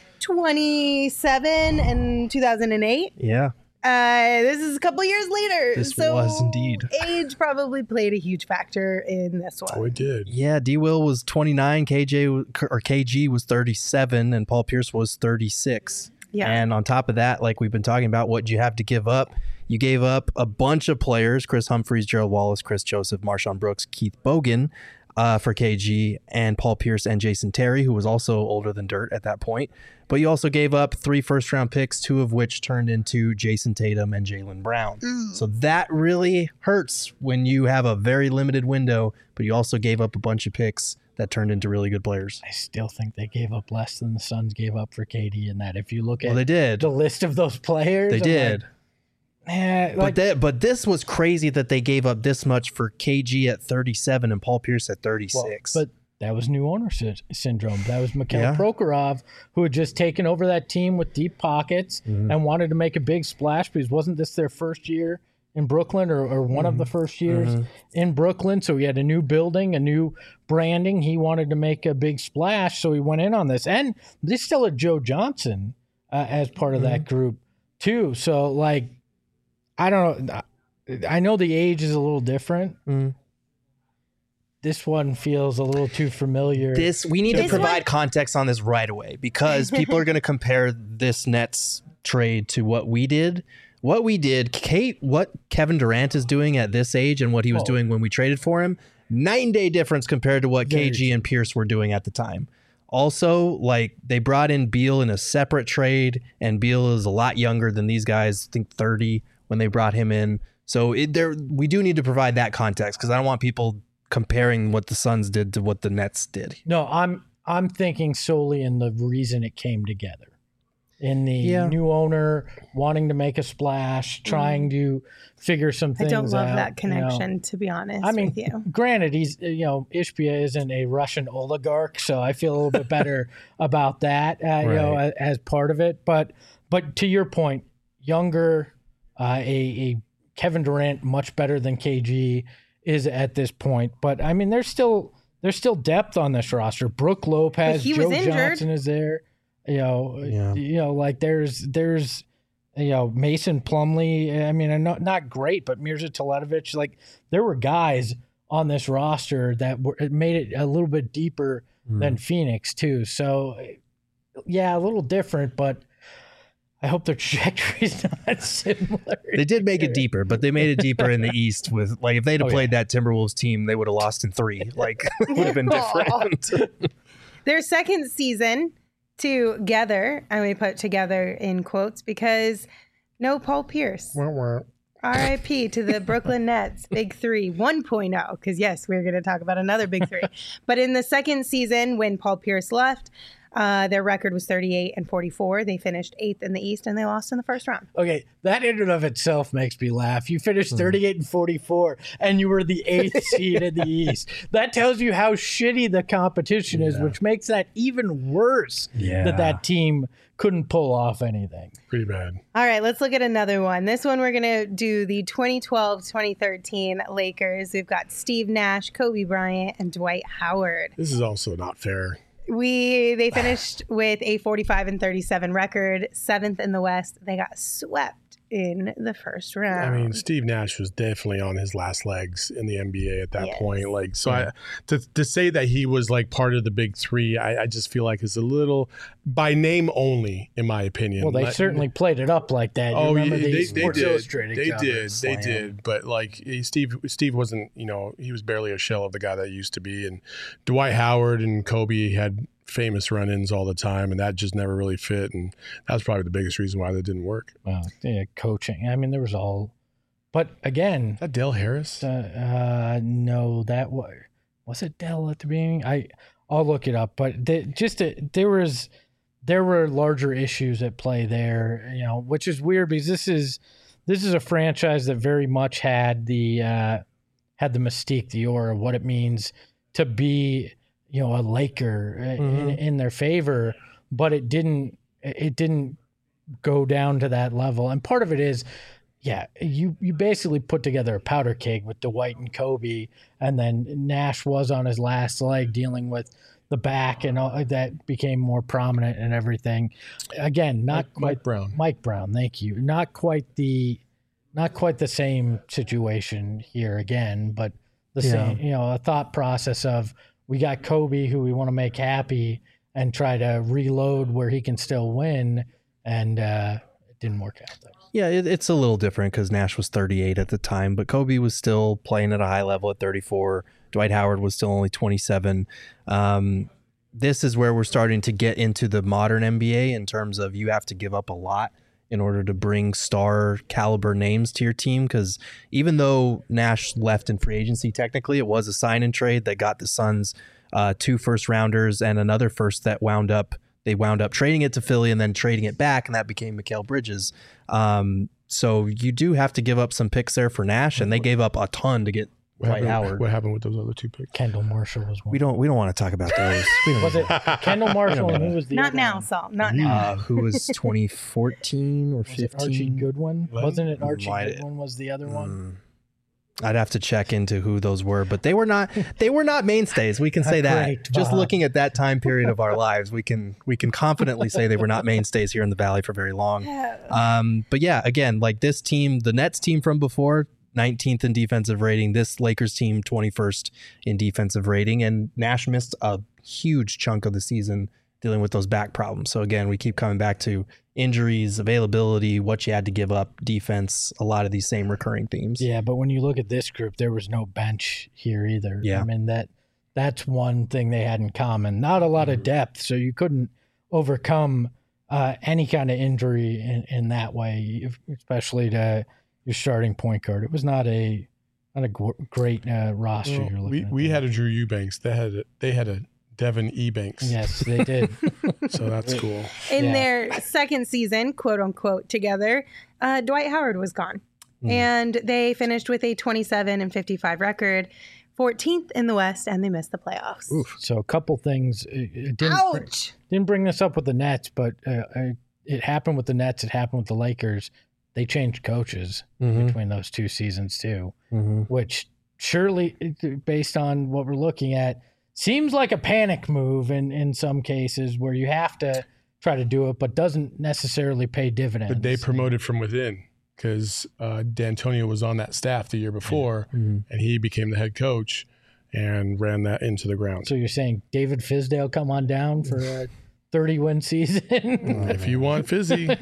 twenty-seven and two thousand eight. Yeah. Uh, this is a couple years later. This so was indeed. Age probably played a huge factor in this one. Oh, it did. Yeah, D. Will was twenty-nine, K J w- or K G was thirty-seven, and Paul Pierce was thirty-six. Yeah. And on top of that, like we've been talking about, what you have to give up. You gave up a bunch of players: Chris Humphries, Gerald Wallace, Chris Joseph, Marshawn Brooks, Keith Bogan uh, for K G, and Paul Pierce and Jason Terry, who was also older than dirt at that point. But you also gave up three first-round picks, two of which turned into Jason Tatum and Jaylen Brown. Mm. So that really hurts when you have a very limited window, but you also gave up a bunch of picks that turned into really good players. I still think they gave up less than the Suns gave up for K D in that. If you look at Well, they did. the list of those players, They I'm did. Like, eh, But like, that, but this was crazy that they gave up this much for K G at thirty-seven and Paul Pierce at well, thirty-six. but that was new owner sy- syndrome. That was Mikhail Yeah. Prokhorov, who had just taken over that team with deep pockets Mm-hmm. and wanted to make a big splash because wasn't this their first year in Brooklyn or, or one of the first years Mm-hmm. in Brooklyn? So he had a new building, a new branding. He wanted to make a big splash, so he went in on this. And they still had Joe Johnson uh, as part of Mm-hmm. that group too. So like, I don't know. I know the age is a little different. Mhm. This one feels a little too familiar. this we need to This provide one- context on this right away because people are going to compare this Nets trade to what we did. What we did, Kate, what Kevin Durant is doing at this age and what he was Oh. doing when we traded for him, night and day difference compared to what Very K G and Pierce were doing at the time. Also, like they brought in Beal in a separate trade, and Beal is a lot younger than these guys. I think thirty when they brought him in. So it, there, we do need to provide that context because I don't want people comparing what the Suns did to what the Nets did. No, I'm I'm thinking solely in the reason it came together. In the Yeah. new owner wanting to make a splash, trying to figure some I things don't love out, that you know. connection, to be honest I mean, with you. granted, he's you know Ishbia isn't a Russian oligarch, so I feel a little bit better about that, uh, you know, Right. as, as part of it. But but to your point, younger, uh, a, a Kevin Durant much better than K G is at this point. But I mean, there's still there's still depth on this roster. Brooke Lopez, But he Joe was injured. Johnson is there. You know, Yeah. you know, like there's there's you know Mason Plumlee. I mean, not not great, but Mirza Teletovic. Like there were guys on this roster that were it made it a little bit deeper Mm. than Phoenix too. So yeah, a little different, but I hope their trajectory is not similar. They did make it deeper, but they made it deeper in the East with like if they'd have Oh, played that Timberwolves team, they would have lost in three. Like it would have been different. Their second season together, I may put together in quotes because no Paul Pierce. R I P to the Brooklyn Nets, Big Three one point oh, because yes, we're going to talk about another Big Three. But in the second season, when Paul Pierce left, uh, their record was thirty-eight and forty-four. They finished eighth in the East, and they lost in the first round. Okay, that in and of itself makes me laugh. You Hmm. finished thirty-eight and forty-four, and you were the eighth seed in the East. That tells you how shitty the competition is, which makes that even worse. Yeah. That that team couldn't pull off anything. Pretty bad. All right, let's look at another one. This one, we're going to do the twenty twelve twenty thirteen Lakers. We've got Steve Nash, Kobe Bryant, and Dwight Howard. This is also not fair. We They finished with a forty-five and thirty-seven record, seventh in the West. They got swept in the first round. I mean, Steve Nash was definitely on his last legs in the N B A at that Yes. point. Like, so I to to say that he was like part of the big three, I, I just feel like is a little by name only, in my opinion. Well, they Let- certainly played it up like that. You Oh, yeah, remember they, the they Sports did. Illustrated They cover? did. They Slam. did. But like he- Steve, Steve wasn't. You know, he was barely a shell of the guy that he used to be. And Dwight Howard and Kobe had famous run-ins all the time, and that just never really fit. And that was probably the biggest reason why that didn't work. Well, yeah, coaching. I mean, there was all, but again, Is that Dale Harris? uh, uh, no, that was was it Dell at the beginning. I I'll look it up, but the, just a, there was there were larger issues at play there, you know, which is weird because this is this is a franchise that very much had the uh, had the mystique, the aura, what it means to be, you know, a Laker in, Mhm. in their favor, but it didn't it didn't go down to that level. And part of it is, yeah, you, you basically put together a powder keg with Dwight and Kobe, and then Nash was on his last leg dealing with the back and all that became more prominent and everything. Again, not Mike, quite Mike Brown. Mike Brown, thank you. Not quite the not quite the same situation here again, but the Yeah. same, you know, a thought process of we got Kobe who we want to make happy and try to reload where he can still win, and uh, it didn't work out though. Yeah, it, it's a little different because Nash was thirty-eight at the time, but Kobe was still playing at a high level at thirty-four. Dwight Howard was still only twenty-seven. Um, this is where we're starting to get into the modern N B A in terms of you have to give up a lot in order to bring star caliber names to your team. Because even though Nash left in free agency, technically it was a sign and trade that got the Suns uh, two first rounders and another first that wound up. They wound up trading it to Philly and then trading it back, and that became Mikal Bridges. Um, so you do have to give up some picks there for Nash, and they gave up a ton to get What Dwight happened, Howard. what happened with those other two picks? Kendall Marshall was one. We don't we don't want to talk about those. We don't Was it Kendall Marshall and who was the Not other now, one? Saul. Not now. uh, who was twenty fourteen or Was it Archie fifteen? Goodwin? Wasn't it Archie Might- Goodwin was the other one? Mm. I'd have to check into who those were, but they were not they were not mainstays. We can say that. Great, Just Bob. looking at that time period of our lives, we can we can confidently say they were not mainstays here in the Valley for very long. Um, but yeah, again, like this team, the Nets team from before, nineteenth in defensive rating. This Lakers team, twenty-first in defensive rating, and Nash missed a huge chunk of the season dealing with those back problems. So again, we keep coming back to injuries, availability, what you had to give up, defense, a lot of these same recurring themes. Yeah, but when you look at this group, there was no bench here either. Yeah. I mean that that's one thing they had in common. Not a lot of depth, so you couldn't overcome uh, any kind of injury in, in that way, if- especially to your starting point guard. It was not a not a gr- great uh, roster Well, you're looking we at. we there. had a Drew Eubanks. They had a, they had a Devin Ebanks. Yes, they did. So that's cool. In Yeah. their second season, quote unquote, together, uh, Dwight Howard was gone. Mm. And they finished with a twenty-seven and fifty-five record, fourteenth in the West, and they missed the playoffs. So a couple things. It, it didn't br- Ouch. didn't bring this up with the Nets, but uh, I- it happened with the Nets. It happened with the Lakers. They changed coaches Mhm. between those two seasons too, Mhm. which surely, based on what we're looking at, seems like a panic move in, in some cases where you have to try to do it, but doesn't necessarily pay dividends. But they promoted from within because uh, D'Antonio was on that staff the year before, Mhm. and he became the head coach and ran that into the ground. So you're saying David Fizdale come on down for a thirty win season? If you want fizzy,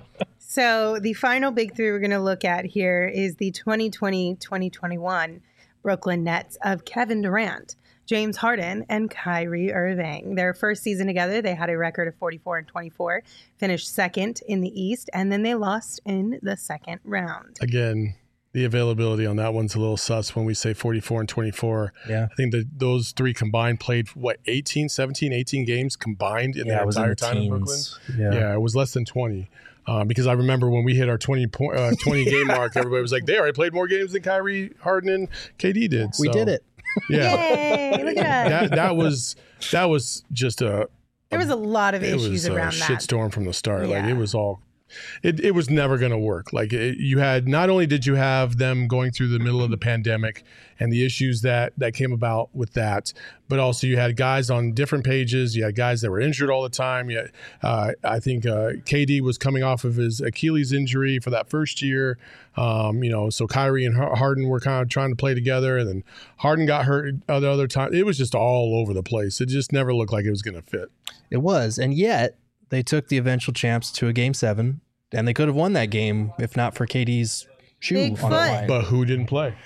So the final big three we're going to look at here is the twenty twenty twenty twenty-one Brooklyn Nets of Kevin Durant, James Harden, and Kyrie Irving. Their first season together, they had a record of forty-four and twenty-four, finished second in the East, and then they lost in the second round. again, the availability on that one's a little sus when we say forty-four and twenty-four. Yeah. I think that those three combined played, what, eighteen, seventeen, eighteen games combined in Yeah, their it was entire in the time in Brooklyn? teens. Yeah. Yeah. it was less than twenty. Uh, because I remember when we hit our twenty point, uh, twenty game mark, everybody was like, they already played more games than Kyrie, Harden, and K D did. We So, did it. Yeah. Yay! Look at us. that that was that was just a There was a lot of it issues was a around that. shitstorm from the start. Like Yeah. it was all it, it was never going to work. Like it, you had not only did you have them going through the middle of the pandemic and the issues that that came about with that, but also you had guys on different pages. You had guys that were injured all the time. You had, uh, I think uh, K D was coming off of his Achilles injury for that first year. Um, you know, so Kyrie and Harden were kind of trying to play together, and then Harden got hurt other other time. It was just all over the place. It just never looked like it was going to fit. It was. And yet they took the eventual champs to a game seven, and they could have won that game if not for K D's shoe Big on the foot. line. But who didn't play?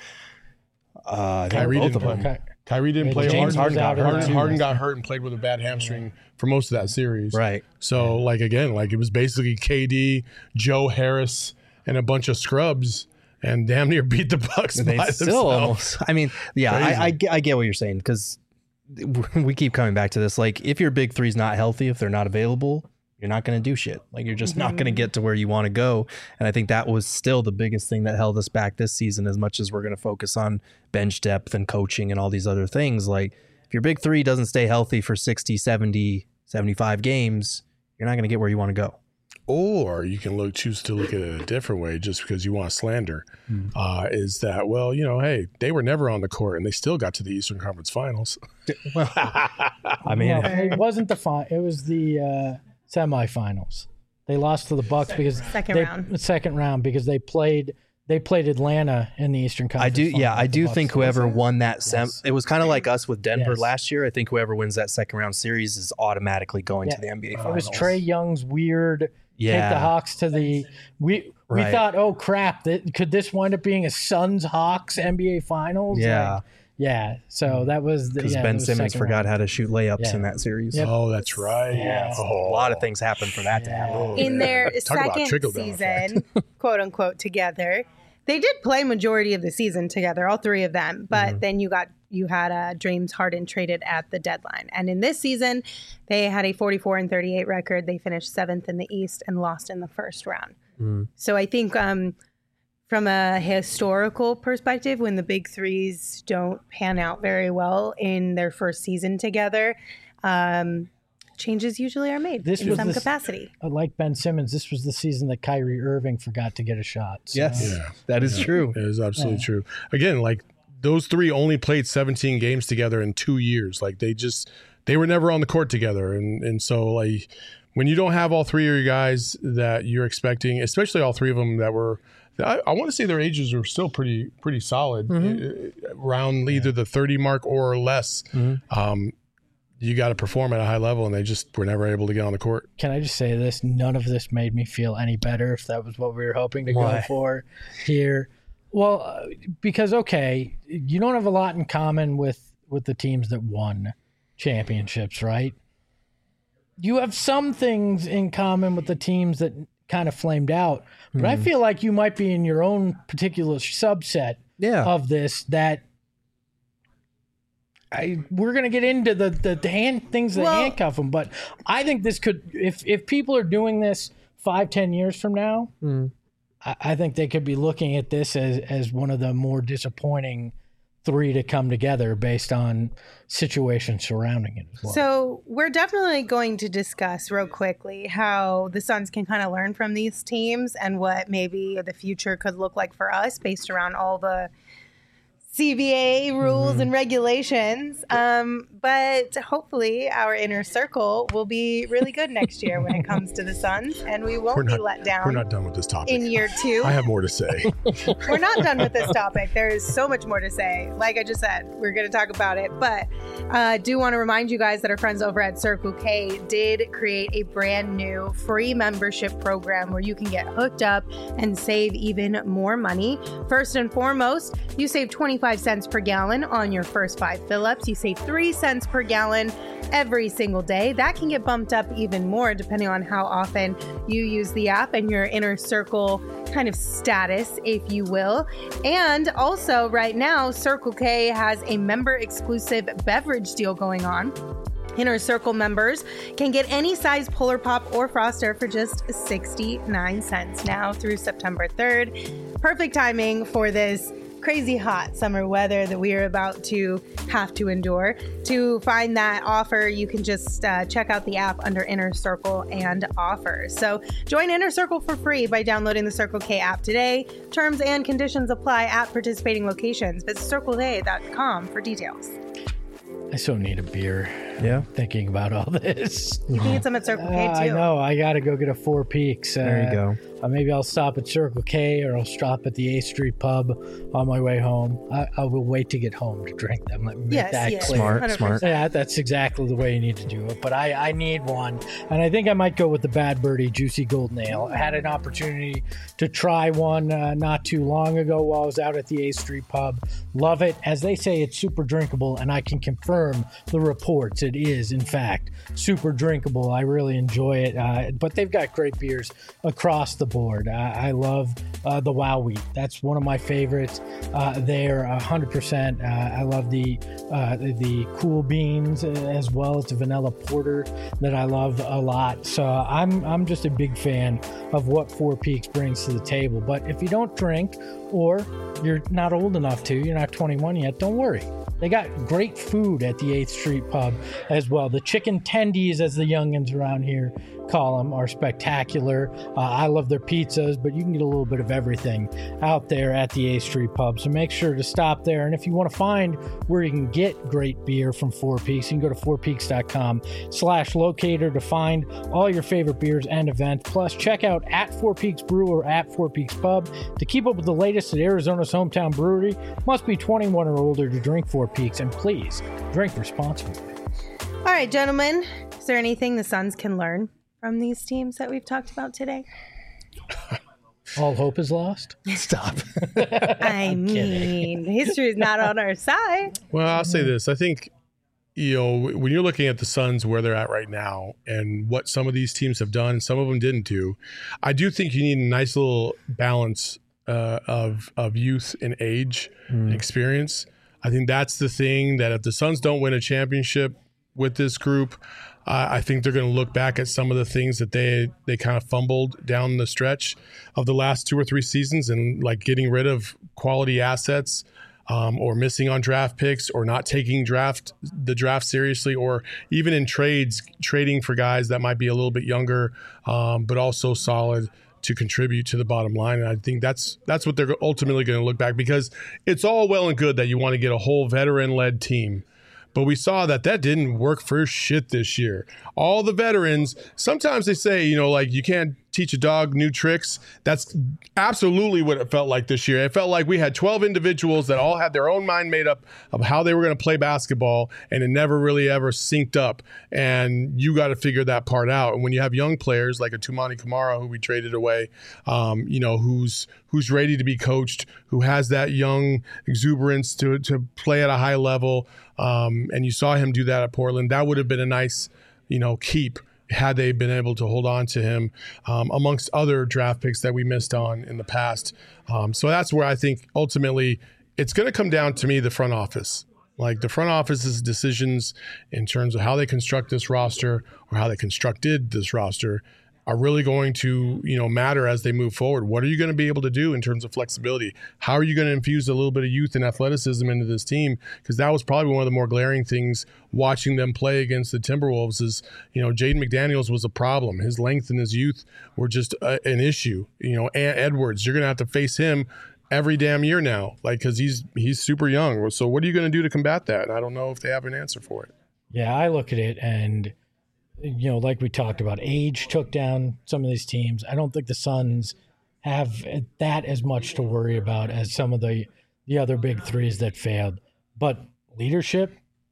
Uh, I think Kyrie both didn't of them. play. Kyrie didn't Yeah, play. James Harden, was out Harden, of Harden, the Harden two. got hurt and played with a bad hamstring for most of that series. Right. So, like again, like it was basically K D, Joe Harris, and a bunch of scrubs, and damn near beat the Bucks They by still themselves. almost. I mean, yeah, I, I, get- I get what you're saying because we keep coming back to this. Like, if your big three's not healthy, if they're not available, you're not going to do shit. Like, you're just not going to get to where you want to go. And I think that was still the biggest thing that held us back this season, as much as we're going to focus on bench depth and coaching and all these other things. Like, if your big three doesn't stay healthy for sixty, seventy, seventy-five games, you're not going to get where you want to go. or you can look choose to look at it a different way just because you want to slander, Mm. uh, is that, well, you know, hey, they were never on the court and they still got to the Eastern Conference Finals. Well, I mean, No, it wasn't the fi- It was the uh, semifinals. They lost to the Bucks because Second they, round. Second round because they played. They played Atlanta in the Eastern I Conference. do. Yeah, Finals. I The do Bucks think did. whoever won that sem, Yes. it was kind of like us with Denver Yes. last year. I think whoever wins that second round series is automatically going Yeah. to the N B A It Finals. was Trey Young's weird. Yeah. Take the Hawks to the. We we Right. thought, oh crap, that, could this wind up being a Suns Hawks N B A Finals? Yeah. Like, yeah. So that was the, Because yeah, Ben it was Simmons second forgot round. how to shoot layups Yeah. in that series. Yep. Oh, that's right. Yeah. Oh. A lot of things happened for that to happen. Oh, In man. their Talk about second trickle-down season, quote unquote, together, they did play majority of the season together, all three of them. But Mm-hmm. then you got you had uh, James Harden traded at the deadline, and in this season, they had a forty-four and thirty-eight record. They finished seventh in the East and lost in the first round. Mm. So I think um, from a historical perspective, when the big threes don't pan out very well in their first season together, um, changes usually are made This in was some the- capacity. Uh, Like Ben Simmons, this was the season that Kyrie Irving forgot to get a shot. So, Yes, Yeah. that is true. It is absolutely Yeah. true. Again, like those three only played seventeen games together in two years. Like they just they were never on the court together, and and so like when you don't have all three of your guys that you're expecting, especially all three of them that were. I, I want to say their ages are still pretty pretty solid, uh, around either the thirty mark or less. Mhm. Um, you got to perform at a high level, and they just were never able to get on the court. Can I just say this? None of this made me feel any better if that was what we were hoping to Why? go for here. Well, uh, because, okay, you don't have a lot in common with, with the teams that won championships, right? You have some things in common with the teams that kind of flamed out, but I feel like you might be in your own particular subset Yeah. of this that I we're gonna get into the the, the hand things that Well- handcuff them, but I think this could if if people are doing this five ten years from now, Mm. I, I think they could be looking at this as as one of the more disappointing three to come together based on situations surrounding it as well. So we're definitely going to discuss real quickly how the Suns can kind of learn from these teams and what maybe the future could look like for us based around all the C B A rules Mm-hmm. and regulations. Um, but hopefully our inner circle will be really good next year when it comes to the Suns, and we won't We're be not- let down We're not done with this topic. in year two. I have more to say. We're not done with this topic. There is so much more to say. Like I just said, we're going to talk about it. But I uh, do want to remind you guys that our friends over at Circle K did create a brand new free membership program where you can get hooked up and save even more money. First and foremost, you save twenty-five cents per gallon on your first five fill-ups. You save three cents per gallon every single day. That can get bumped up even more depending on how often you use the app and your inner circle kind of status, if you will. And also right now, Circle K has a member exclusive beverage deal going on. Inner Circle members can get any size Polar Pop or Froster for just sixty-nine cents now through September third. Perfect timing for this crazy hot summer weather that we are about to have to endure. To find that offer, you can just uh, check out the app under Inner Circle and offers. So join Inner Circle for free by downloading the Circle K app today. Terms and conditions apply at participating locations. Visit circle k dot com for details. I so need a beer Yeah. thinking about all this. You can get some at Circle K Uh, too. I know. I got to go get a Four Peaks. Uh, There you go. Uh, maybe I'll stop at Circle K or I'll stop at the eighth Street Pub on my way home. I, I will wait to get home to drink them. Let me make Yes, that yes. clear. Smart, one hundred percent. smart. Yeah, that's exactly the way you need to do it. But I, I need one. And I think I might go with the Bad Birdie Juicy Golden Ale. I had an opportunity to try one uh, not too long ago while I was out at the eighth Street Pub. Love it. As they say, it's super drinkable, and I can confirm the reports. It is, in fact, super drinkable. I really enjoy it. Uh, but they've got great beers across the board. I, I love uh, the Wow Wheat. That's one of my favorites. Uh, they're one hundred percent. Uh, I love the, uh, the the Cool Beans uh, as well. It's a vanilla porter that I love a lot. So I'm I'm just a big fan of what Four Peaks brings to the table. But if you don't drink or you're not old enough to, you're not twenty-one yet, don't worry. They got great food at the eighth Street Pub. as well. The chicken tendies, as the youngins around here call them, are spectacular. Uh, I love their pizzas, but you can get a little bit of everything out there at the A Street Pub. So make sure to stop there. And if you want to find where you can get great beer from Four Peaks, you can go to four peaks dot com slash locator to find all your favorite beers and events. Plus, check out at Four Peaks Brew or at Four Peaks Pub to keep up with the latest at Arizona's hometown brewery. Must be twenty-one or older to drink Four Peaks, and please drink responsibly. All right, gentlemen, is there anything the Suns can learn from these teams that we've talked about today? All hope is lost? Stop. I mean, history is not on our side. Well, I'll say this. I think, you know, when you're looking at the Suns, where they're at right now and what some of these teams have done, some of them didn't do, I do think you need a nice little balance uh, of, of youth and age mm. and experience. I think that's the thing, that if the Suns don't win a championship with this group, uh, I think they're going to look back at some of the things that they they kind of fumbled down the stretch of the last two or three seasons, and like getting rid of quality assets, um, or missing on draft picks, or not taking draft the draft seriously, or even in trades, trading for guys that might be a little bit younger, um, but also solid to contribute to the bottom line. And I think that's that's what they're ultimately going to look back, because it's all well and good that you want to get a whole veteran-led team. But we saw that that didn't work for shit this year. All the veterans, sometimes they say, you know, like you can't teach a dog new tricks. That's absolutely what it felt like this year. It felt like we had twelve individuals that all had their own mind made up of how they were going to play basketball, and it never really ever synced up. And you got to figure that part out. And when you have young players like a Tumani Kamara, who we traded away, um, you know, who's who's ready to be coached, who has that young exuberance to to play at a high level, um, and you saw him do that at Portland, that would have been a nice, you know, keep had they been able to hold on to him, um, amongst other draft picks that we missed on in the past. Um, so that's where I think ultimately it's going to come down to me, the front office. Like the front office's decisions in terms of how they construct this roster, or how they constructed this roster, are really going to, you know, matter as they move forward. What are you going to be able to do in terms of flexibility? How are you going to infuse a little bit of youth and athleticism into this team? Because that was probably one of the more glaring things watching them play against the Timberwolves is, you know, Jaden McDaniels was a problem. His length and his youth were just a, an issue. You know, Ant Edwards, you're going to have to face him every damn year now, like, because he's he's super young. So what are you going to do to combat that? I don't know if they have an answer for it. Yeah, I look at it and, you know, like we talked about, age took down some of these teams. I don't think the Suns have that as much to worry about as some of the, the other big threes that failed. But leadership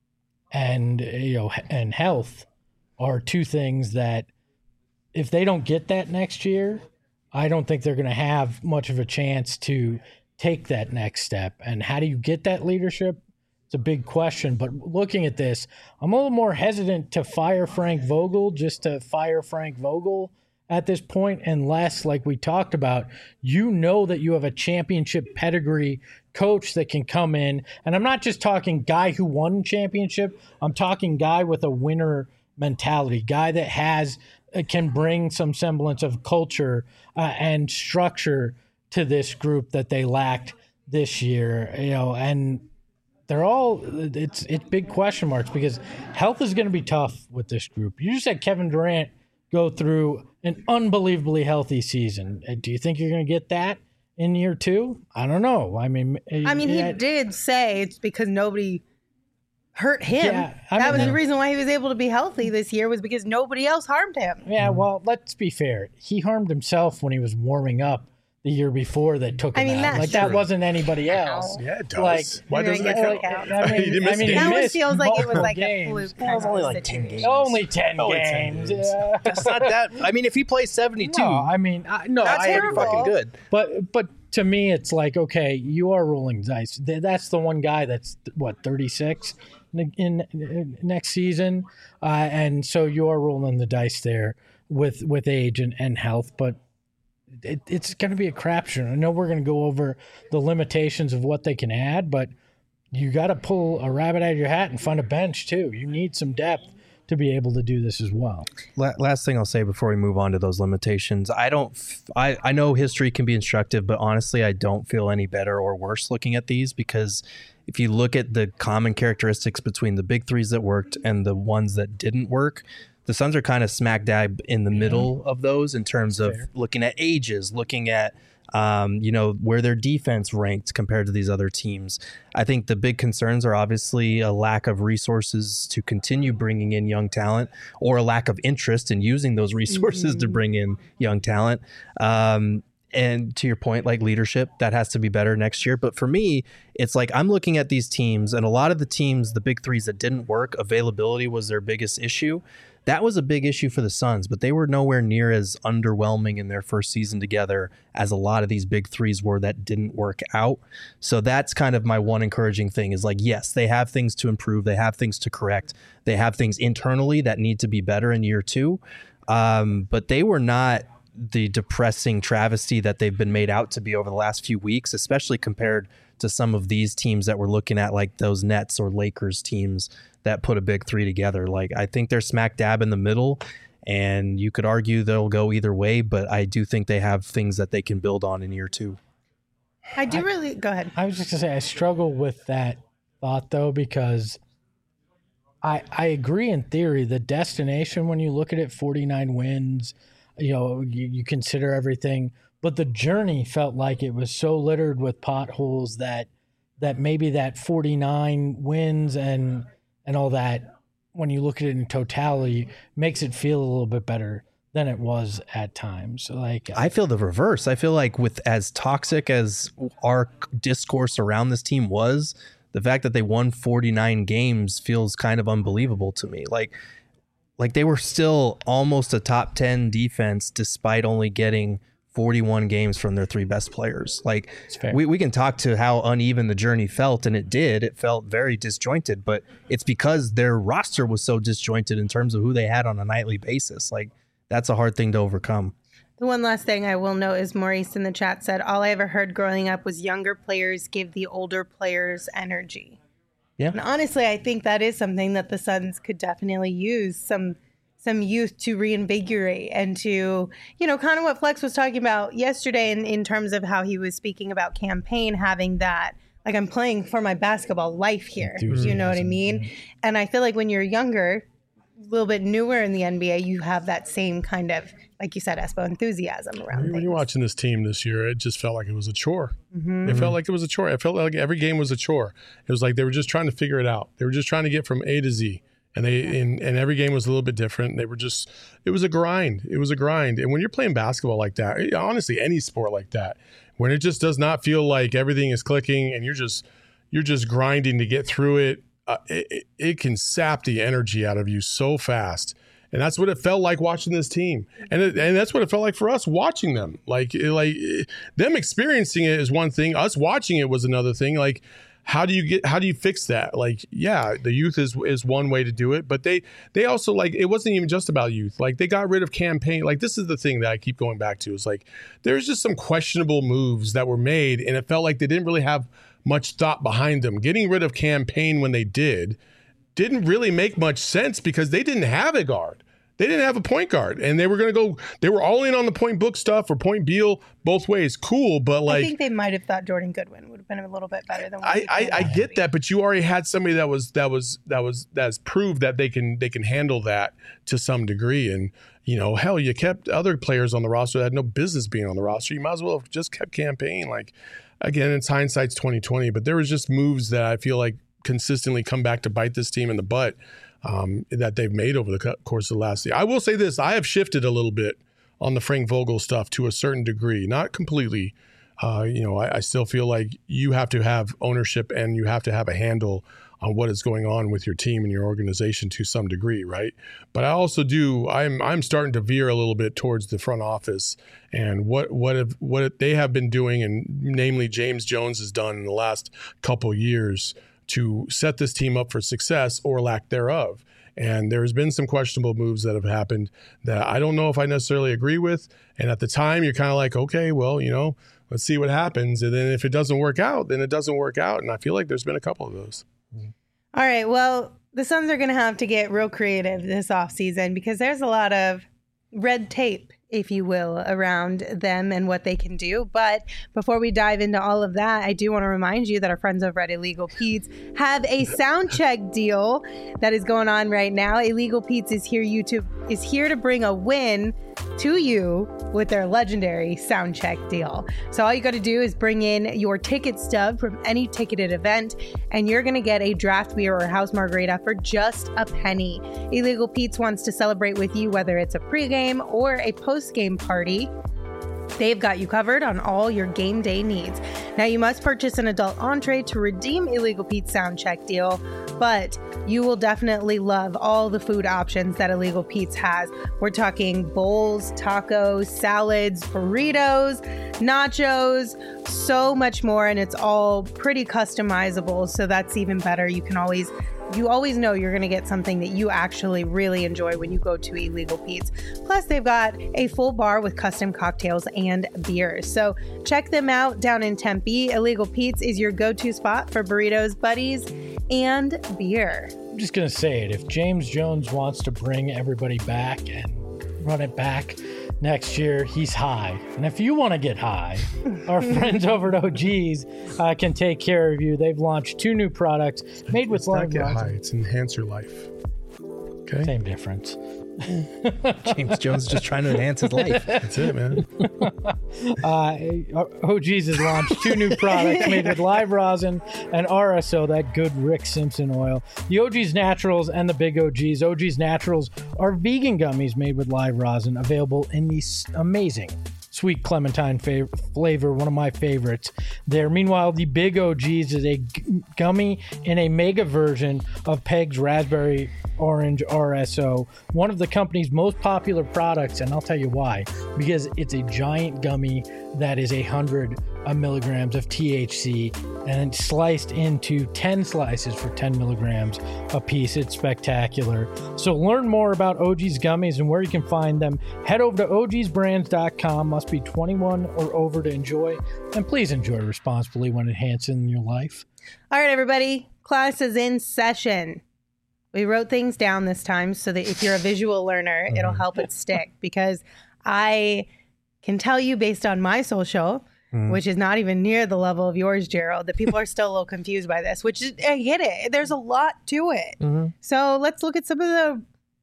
and, you know, and health are two things that if they don't get that next year, I don't think they're going to have much of a chance to take that next step. And how do you get that leadership? It's a big question, but looking at this, I'm a little more hesitant to fire Frank Vogel just to fire Frank Vogel at this point, unless, like we talked about, you know that you have a championship pedigree coach that can come in. And I'm not just talking guy who won championship. I'm talking guy with a winner mentality, guy that has can bring some semblance of culture uh, and structure to this group that they lacked this year, you know, and they're all, it's it's big question marks because health is going to be tough with this group. You just had Kevin Durant go through an unbelievably healthy season. Do you think you're going to get that in year two? I don't know. I mean, I mean, he it, did say it's because nobody hurt him. Yeah, I that mean, was that, the reason why he was able to be healthy this year, was because nobody else harmed him. Yeah, well, let's be fair. He harmed himself when he was warming up the year before that took him I mean, out. that's Like true. that wasn't anybody else. Yeah, it does. Like, Why You're doesn't gonna that get count? it out. I mean, He didn't miss I mean, any. he That one missed feels like it was multiple like games. a fluke. That was kind only of like ten situation. games. Only ten Only ten games. games. Yeah. That's not that. I mean, if he plays seventy-two, No, I mean, I, no, That's I pretty terrible. fucking good. But but to me, it's like, okay, you are rolling dice. Th- That's the one guy that's what thirty-six in, in, in next season, uh, and so you are rolling the dice there with with age and, and health. But it, it's going to be a crapshoot. I know we're going to go over the limitations of what they can add, but you got to pull a rabbit out of your hat and find a bench too. You need some depth to be able to do this as well. La- last thing I'll say before we move on to those limitations, I don't, f- I, I know history can be instructive, but honestly, I don't feel any better or worse looking at these, because if you look at the common characteristics between the big threes that worked and the ones that didn't work, the Suns are kind of smack dab in the middle of those in terms of Fair. looking at ages, looking at Um, you know, where their defense ranked compared to these other teams. I think the big concerns are obviously a lack of resources to continue bringing in young talent, or a lack of interest in using those resources mm-hmm. to bring in young talent. Um, and to your point, like leadership, that has to be better next year. But for me, it's like I'm looking at these teams, and a lot of the teams, the big threes that didn't work, availability was their biggest issue. That was a big issue for the Suns, but they were nowhere near as underwhelming in their first season together as a lot of these big threes were that didn't work out. So that's kind of my one encouraging thing is like, yes, they have things to improve. They have things to correct. They have things internally that need to be better in year two. Um, but they were not the depressing travesty that they've been made out to be over the last few weeks, especially compared to some of these teams that we're looking at, like those Nets or Lakers teams that put a big three together. Like, I think they're smack dab in the middle, and you could argue they'll go either way, but I do think they have things that they can build on in year two. I do really, go ahead. I was just gonna say, I struggle with that thought though, because I I agree in theory. The destination, when you look at it, forty-nine wins, you know, you, you consider everything, but the journey felt like it was so littered with potholes that that maybe that forty-nine wins and and all that, when you look at it in totality, makes it feel a little bit better than it was at times. Like I feel the reverse. I feel like with as toxic as our discourse around this team was, the fact that they won forty-nine games feels kind of unbelievable to me. Like, like they were still almost a top ten defense despite only getting forty-one games from their three best players. Like we, we can talk to how uneven the journey felt, and it did. It felt very disjointed, but it's because their roster was so disjointed in terms of who they had on a nightly basis. Like that's a hard thing to overcome. The one last thing I will note is Maurice in the chat said, all I ever heard growing up was younger players give the older players energy. Yeah. And honestly, I think that is something that the Suns could definitely use, some some youth to reinvigorate and to, you know, kind of what Flex was talking about yesterday in, in terms of how he was speaking about campaign, having that, like, I'm playing for my basketball life here. You know what I mean? And I feel like when you're younger, a little bit newer in the N B A, you have that same kind of, like you said, Espo, enthusiasm around When things. you're watching this team this year, it just felt like it was a chore. Mm-hmm. It felt like it was a chore. It felt like every game was a chore. It was like they were just trying to figure it out. They were just trying to get from A to Z. And they yeah. and, and every game was a little bit different. They were just, it was a grind. It was a grind. And when you're playing basketball like that, honestly, any sport like that, when it just does not feel like everything is clicking and you're just you're just grinding to get through it, uh, it, it can sap the energy out of you so fast. And that's what it felt like watching this team. And it, and that's what it felt like for us watching them. Like, like them experiencing it is one thing. Us watching it was another thing. Like, how do you get, how do you fix that? Like, yeah, the youth is is one way to do it, but they they also, like, it wasn't even just about youth. Like, they got rid of campaign. Like, this is the thing that I keep going back to, is like, there's just some questionable moves that were made, and it felt like they didn't really have much thought behind them. Getting rid of campaign when they did didn't really make much sense because they didn't have a guard. They didn't have a point guard, and they were going to go, they were all in on the point book stuff or point Beal both ways. Cool, but like, I think they might have thought Jordan Goodwin would have been a little bit better than what I, I, I get that, but you already had somebody that was, that was, that was, that's proved that they can, they can handle that to some degree. And, you know, hell, you kept other players on the roster that had no business being on the roster. You might as well have just kept campaign. Like, again, it's hindsight's twenty twenty, but there was just moves that I feel like consistently come back to bite this team in the butt. Um, that they've made over the course of the last year. I will say this, I have shifted a little bit on the Frank Vogel stuff to a certain degree, not completely. Uh, you know, I, I still feel like you have to have ownership and you have to have a handle on what is going on with your team and your organization to some degree, right? But I also do, I'm I'm starting to veer a little bit towards the front office and what what have, what they have been doing, and namely James Jones has done in the last couple years to set this team up for success or lack thereof. And there's been some questionable moves that have happened that I don't know if I necessarily agree with. And at the time, you're kind of like, okay, well, you know, let's see what happens. And then if it doesn't work out, then it doesn't work out. And I feel like there's been a couple of those. All right. Well, the Suns are going to have to get real creative this offseason because there's a lot of red tape, if you will, around them and what they can do. But before we dive into all of that, I do want to remind you that our friends over at Illegal Pete's have a sound check deal that is going on right now. Illegal Pete's is here you to is here to bring a win to you with their legendary sound check deal. So all you got to do is bring in your ticket stub from any ticketed event, and you're going to get a draft beer or house margarita for just a penny. Illegal Pete's wants to celebrate with you, whether it's a pregame or a post-game party. They've got you covered on all your game day needs. Now, you must purchase an adult entree to redeem Illegal Pete's sound check deal, but you will definitely love all the food options that Illegal Pete's has. We're talking bowls, tacos, salads, burritos, nachos, so much more, and it's all pretty customizable, so that's even better. You can always You always know you're going to get something that you actually really enjoy when you go to Illegal Pete's. Plus, they've got a full bar with custom cocktails and beers. So check them out down in Tempe. Illegal Pete's is your go-to spot for burritos, buddies, and beer. I'm just going to say it. If James Jones wants to bring everybody back and run it back next year, he's high. And if you want to get high, our friends over at O G's uh, can take care of you. They've launched two new products made with It's not live get rosin. high. It's enhance your life. Okay. Same difference. James Jones is just trying to enhance his life. That's it, man. Uh, O G's has launched two new products made with live rosin and R S O, that good Rick Simpson oil. The O G's Naturals and the Big O G's. O G's Naturals are vegan gummies made with live rosin, available in these amazing sweet clementine fav- flavor, one of my favorites there. Meanwhile, the Big O G's is a g- gummy in a mega version of Peg's Raspberry Orange R S O, one of the company's most popular products, and I'll tell you why. Because it's a giant gummy that is a hundred milligrams of T H C and it's sliced into ten slices for ten milligrams a piece. It's spectacular. So learn more about O G's gummies and where you can find them. Head over to O Gs brands dot com. Must be twenty-one or over to enjoy. And please enjoy responsibly when enhancing your life. All right, everybody. Class is in session. We wrote things down this time so that if you're a visual learner, it'll help it stick, because I can tell you based on my social, mm. which is not even near the level of yours, Gerald, that people are still a little confused by this, which is, I get it. There's a lot to it. Mm-hmm. So let's look at some of the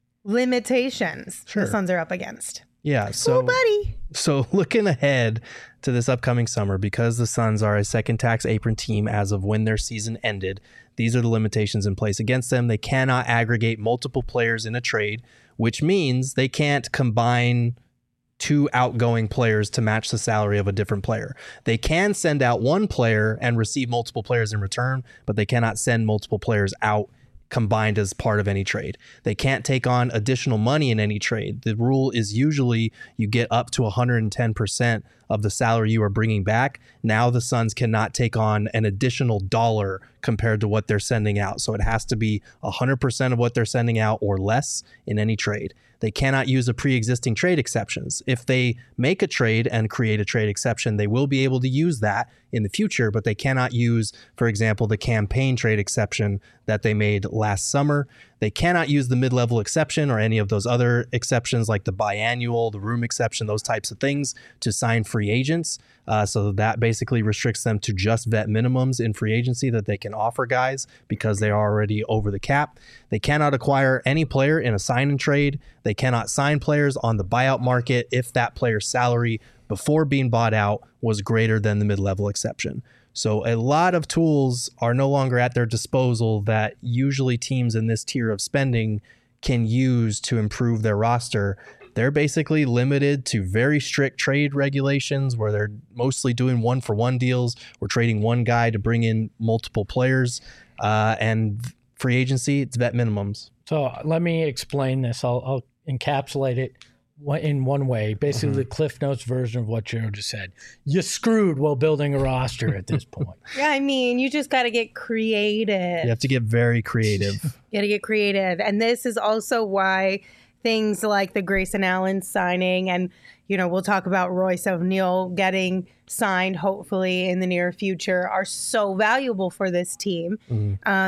limitations sure. the Suns are up against. Yeah. So, cool, buddy. So looking ahead to this upcoming summer, because the Suns are a second tax apron team as of when their season ended, these are the limitations in place against them. They cannot aggregate multiple players in a trade, which means they can't combine two outgoing players to match the salary of a different player. They can send out one player and receive multiple players in return, but they cannot send multiple players out combined as part of any trade. They can't take on additional money in any trade. The rule is usually you get up to one hundred ten percent of the salary you are bringing back. Now the Suns cannot take on an additional dollar compared to what they're sending out. So it has to be one hundred percent of what they're sending out or less in any trade. They cannot use a pre-existing trade exceptions. If they make a trade and create a trade exception, they will be able to use that in the future, but they cannot use, for example, the campaign trade exception that they made last summer. They cannot use the mid-level exception or any of those other exceptions like the biannual, the room exception, those types of things to sign free agents. Uh, so that basically restricts them to just vet minimums in free agency that they can offer guys because they are already over the cap. They cannot acquire any player in a sign and trade. They cannot sign players on the buyout market if that player's salary before being bought out was greater than the mid-level exception. So a lot of tools are no longer at their disposal that usually teams in this tier of spending can use to improve their roster. They're basically limited to very strict trade regulations where they're mostly doing one for one deals or trading one guy to bring in multiple players. Uh, and free agency, it's vet minimums. So let me explain this. I'll, I'll encapsulate it in one way, basically mm-hmm. the Cliff Notes version of what Joe just said. You're screwed while building a roster at this point. Yeah, I mean, you just got to get creative. You have to get very creative. You got to get creative. And this is also why things like the Grayson Allen signing, and, you know, we'll talk about Royce O'Neal getting signed, hopefully in the near future, are so valuable for this team. Mm-hmm. Um,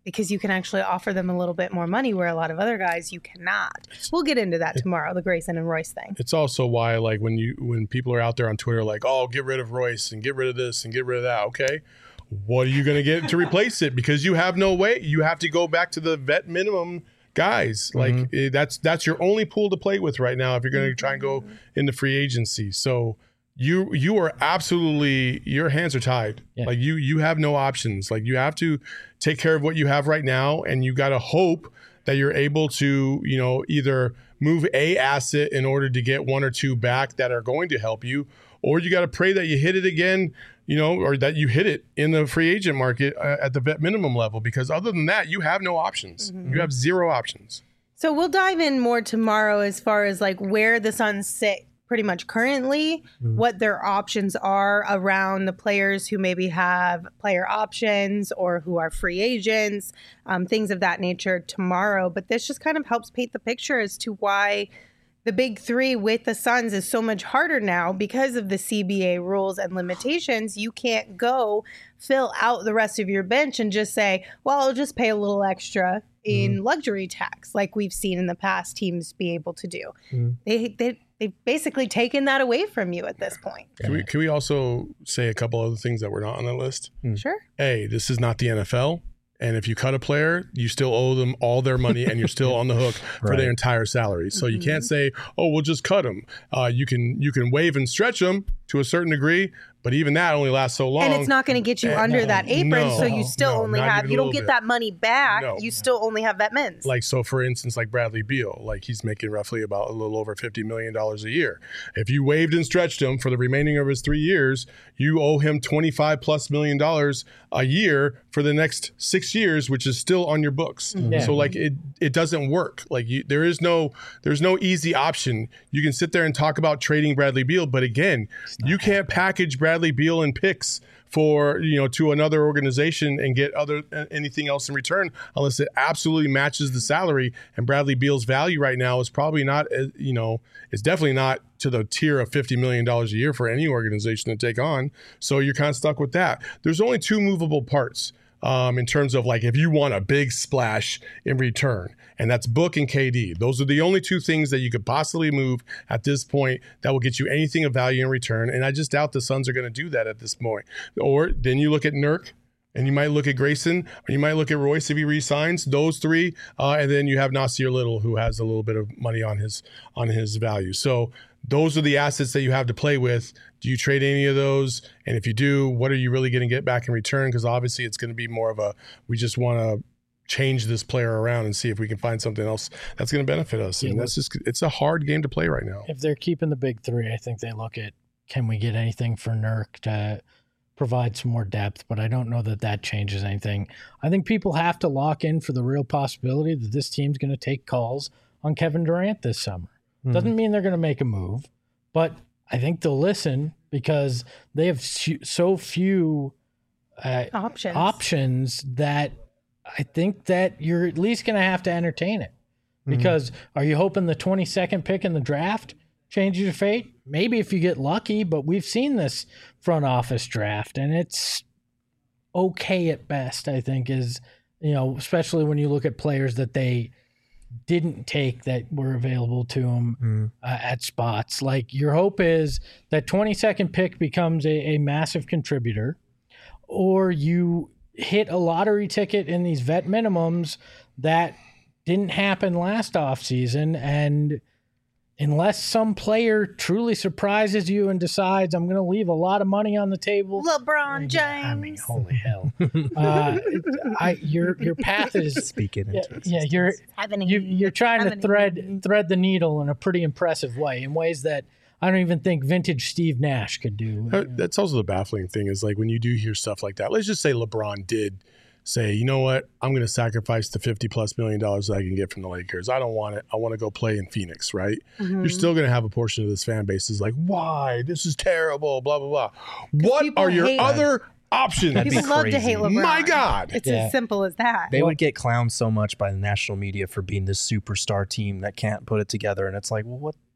because you can actually offer them a little bit more money where a lot of other guys you cannot. We'll get into that tomorrow, the Grayson and Royce thing. It's also why, like, when you when people are out there on Twitter, like, oh, get rid of Royce and get rid of this and get rid of that. Okay, what are you going to get to replace it? Because you have no way. You have to go back to the vet minimum guys. Like Mm-hmm. eh, that's that's your only pool to play with right now if you're going to try and go into free agency. So you you are absolutely, your hands are tied. Yeah. Like you you have no options. Like you have to take care of what you have right now, and you got to hope that you're able to, you know, either move a asset in order to get one or two back that are going to help you, or you got to pray that you hit it again, you know, or that you hit it in the free agent market uh, at the vet minimum level, because other than that, you have no options. You have zero options. So we'll dive in more tomorrow as far as like where the Suns sit pretty much currently, what their options are around the players who maybe have player options or who are free agents, um, things of that nature tomorrow. But this just kind of helps paint the picture as to why the big three with the Suns is so much harder now because of the C B A rules and limitations. You can't go fill out the rest of your bench and just say, well, I'll just pay a little extra in luxury tax like we've seen in the past teams be able to do. Mhm. They, they, they've basically taken that away from you at this point. Can we, can we also say a couple other things that were not on the list? Sure. A, this is not the N F L. And if you cut a player, you still owe them all their money and you're still on the hook for Right. their entire salary. So you can't say, oh, we'll just cut them. Uh, you can you can waive and stretch them to a certain degree, but even that only lasts so long. And it's not going to get you Eh, under no, that apron, no, so you still no, only not have, even you a don't little get bit. that money back. No. You still only have vet mins. Like, so for instance, like Bradley Beal, like he's making roughly about a little over fifty million dollars a year. If you waived and stretched him for the remaining of his three years, you owe him twenty-five plus million dollars a year for the next six years, which is still on your books. Yeah. So like it, it doesn't work. Like you, there is no, there's no easy option. You can sit there and talk about trading Bradley Beal, but again, you can't package Bradley Beal and picks for, you know, to another organization and get other anything else in return unless it absolutely matches the salary. And Bradley Beal's value right now is probably not, uh, you know, it's definitely not to the tier of fifty million dollars a year for any organization to take on. So you're kind of stuck with that. There's only two movable parts. Um, in terms of like if you want a big splash in return, and that's Book and K D. Those are the only two things that you could possibly move at this point that will get you anything of value in return. And I just doubt the Suns are going to do that at this point. Or then you look at Nurk, and you might look at Grayson, or you might look at Royce if he re-signs, those three, uh, and then you have Nasir Little, who has a little bit of money on his on his value. So those are the assets that you have to play with. Do you trade any of those? And if you do, what are you really going to get back in return? Because obviously it's going to be more of a, we just want to change this player around and see if we can find something else that's going to benefit us. And Yeah, that's just, it's a hard game to play right now. If they're keeping the big three, I think they look at, can we get anything for Nurk to provide some more depth? But I don't know that that changes anything. I think people have to lock in for the real possibility that this team's going to take calls on Kevin Durant this summer. Doesn't mean they're going to make a move, but I think they'll listen because they have so few uh, Options. options that I think that you're at least going to have to entertain it. Because are you hoping the twenty-second pick in the draft changes your fate? Maybe if you get lucky, but we've seen this front office draft, and it's okay at best, I think, is, you know, especially when you look at players that they didn't take that were available to them uh, at spots. Like, your hope is that twenty-second pick becomes a, a massive contributor, or you hit a lottery ticket in these vet minimums that didn't happen last offseason. And unless some player truly surprises you and decides, I'm going to leave a lot of money on the table. LeBron James. Yeah, I mean, holy hell. uh, I, your, your path is, Speaking yeah, into yeah, you're, Happening. you, you're trying to Happening. thread, thread the needle in a pretty impressive way, in ways that I don't even think vintage Steve Nash could do. Uh, That's also the baffling thing is like when you do hear stuff like that, let's just say LeBron did say, you know what, I'm going to sacrifice the fifty plus million dollars that I can get from the Lakers. I don't want it. I want to go play in Phoenix, right? Mm-hmm. You're still going to have a portion of this fan base is like, why? This is terrible, blah, blah, blah. What people are your hate- other options? That'd be People love to crazy. hate LeBron. My God. It's Yeah. as simple as that. They would get clowned so much by the national media for being this superstar team that can't put it together. And it's like, well, what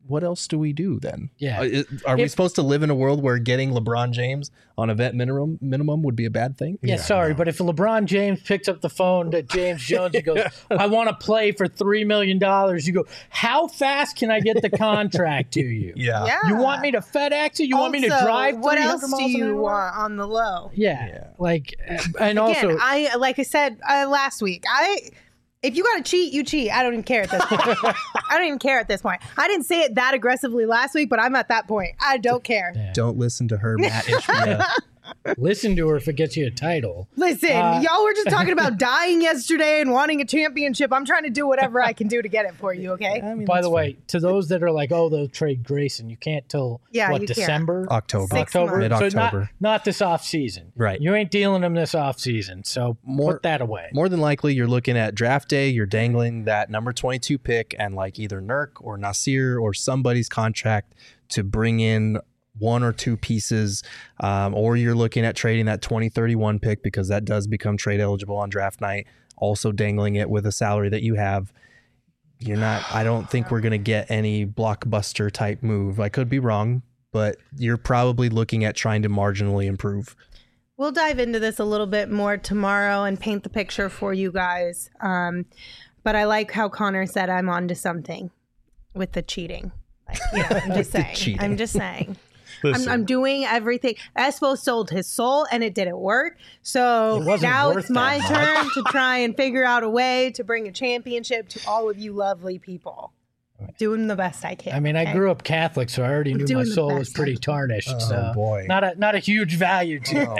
what else do we do then? Yeah. Uh, it- Are we If- supposed to live in a world where getting LeBron James on a vet minimum minimum would be a bad thing? Yeah, sorry, but if LeBron James picks up the phone to James Jones and goes, I want to play for three million dollars, you go, how fast can I get the contract to you? Yeah. Yeah. You want me to FedEx it? You want me to Also, drive what else three hundred do miles an you hour? want on the low? Yeah, Yeah. like, and Again, also, I like I said uh, last week, I if you got to cheat, you cheat. I don't even care at this point. I don't even care at this point. I didn't say it that aggressively last week, but I'm at that point. I don't care. Don't listen to her, Matt H B F. listen to her if it gets you a title. Listen, Uh, y'all were just talking about dying yesterday and wanting a championship. I'm trying to do whatever I can do to get it for you, okay? I mean, By that's the way, to those that are like, oh, they'll trade Grayson, you can't till Yeah, what, you can't. December? October. Six October, months. so Mid-October. not, not this off season, Right. You ain't dealing them this off season, so More- put that away. More than likely, you're looking at draft day. You're dangling that number twenty-two pick and like either Nurk or Nasir or somebody's contract to bring in one or two pieces, um, or you're looking at trading that twenty thirty-one pick because that does become trade eligible on draft night. Also dangling it with a salary that you have. You're not. I don't think we're gonna get any blockbuster type move. I could be wrong, but you're probably looking at trying to marginally improve. We'll dive into this a little bit more tomorrow and paint the picture for you guys. Um, but I like how Connor said I'm onto something with the cheating. Like, you know, I'm just The saying. cheating. I'm just saying. I'm, Listen, I'm doing everything. Espo sold his soul and it didn't work. So It wasn't now worth it's my that turn to try and figure out a way to bring a championship to all of you lovely people. Doing the best I can. I mean, I okay? grew up Catholic, so I already knew my doing the soul was best pretty I can. tarnished. Oh, so boy. not a not a huge value to it. Oh,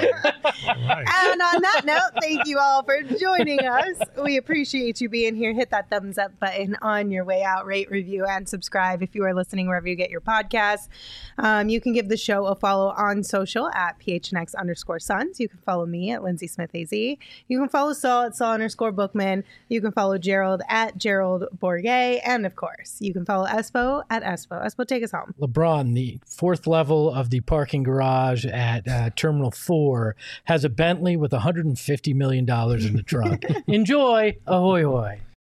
boy. And on that note, thank you all for joining us. We appreciate you being here. Hit that thumbs up button on your way out. Rate, review, and subscribe if you are listening wherever you get your podcasts. Um, you can give the show a follow on social at phnx underscore sons. You can follow me at Lindsay Smith A Z. You can follow Saul at Saul underscore Bookman. You can follow Gerald at Gerald Bourget. And of course, you can follow Espo at Espo. Espo, take us home. LeBron, the fourth level of the parking garage at uh, Terminal four, has a Bentley with one hundred fifty million dollars in the trunk. Enjoy. Ahoy, hoy.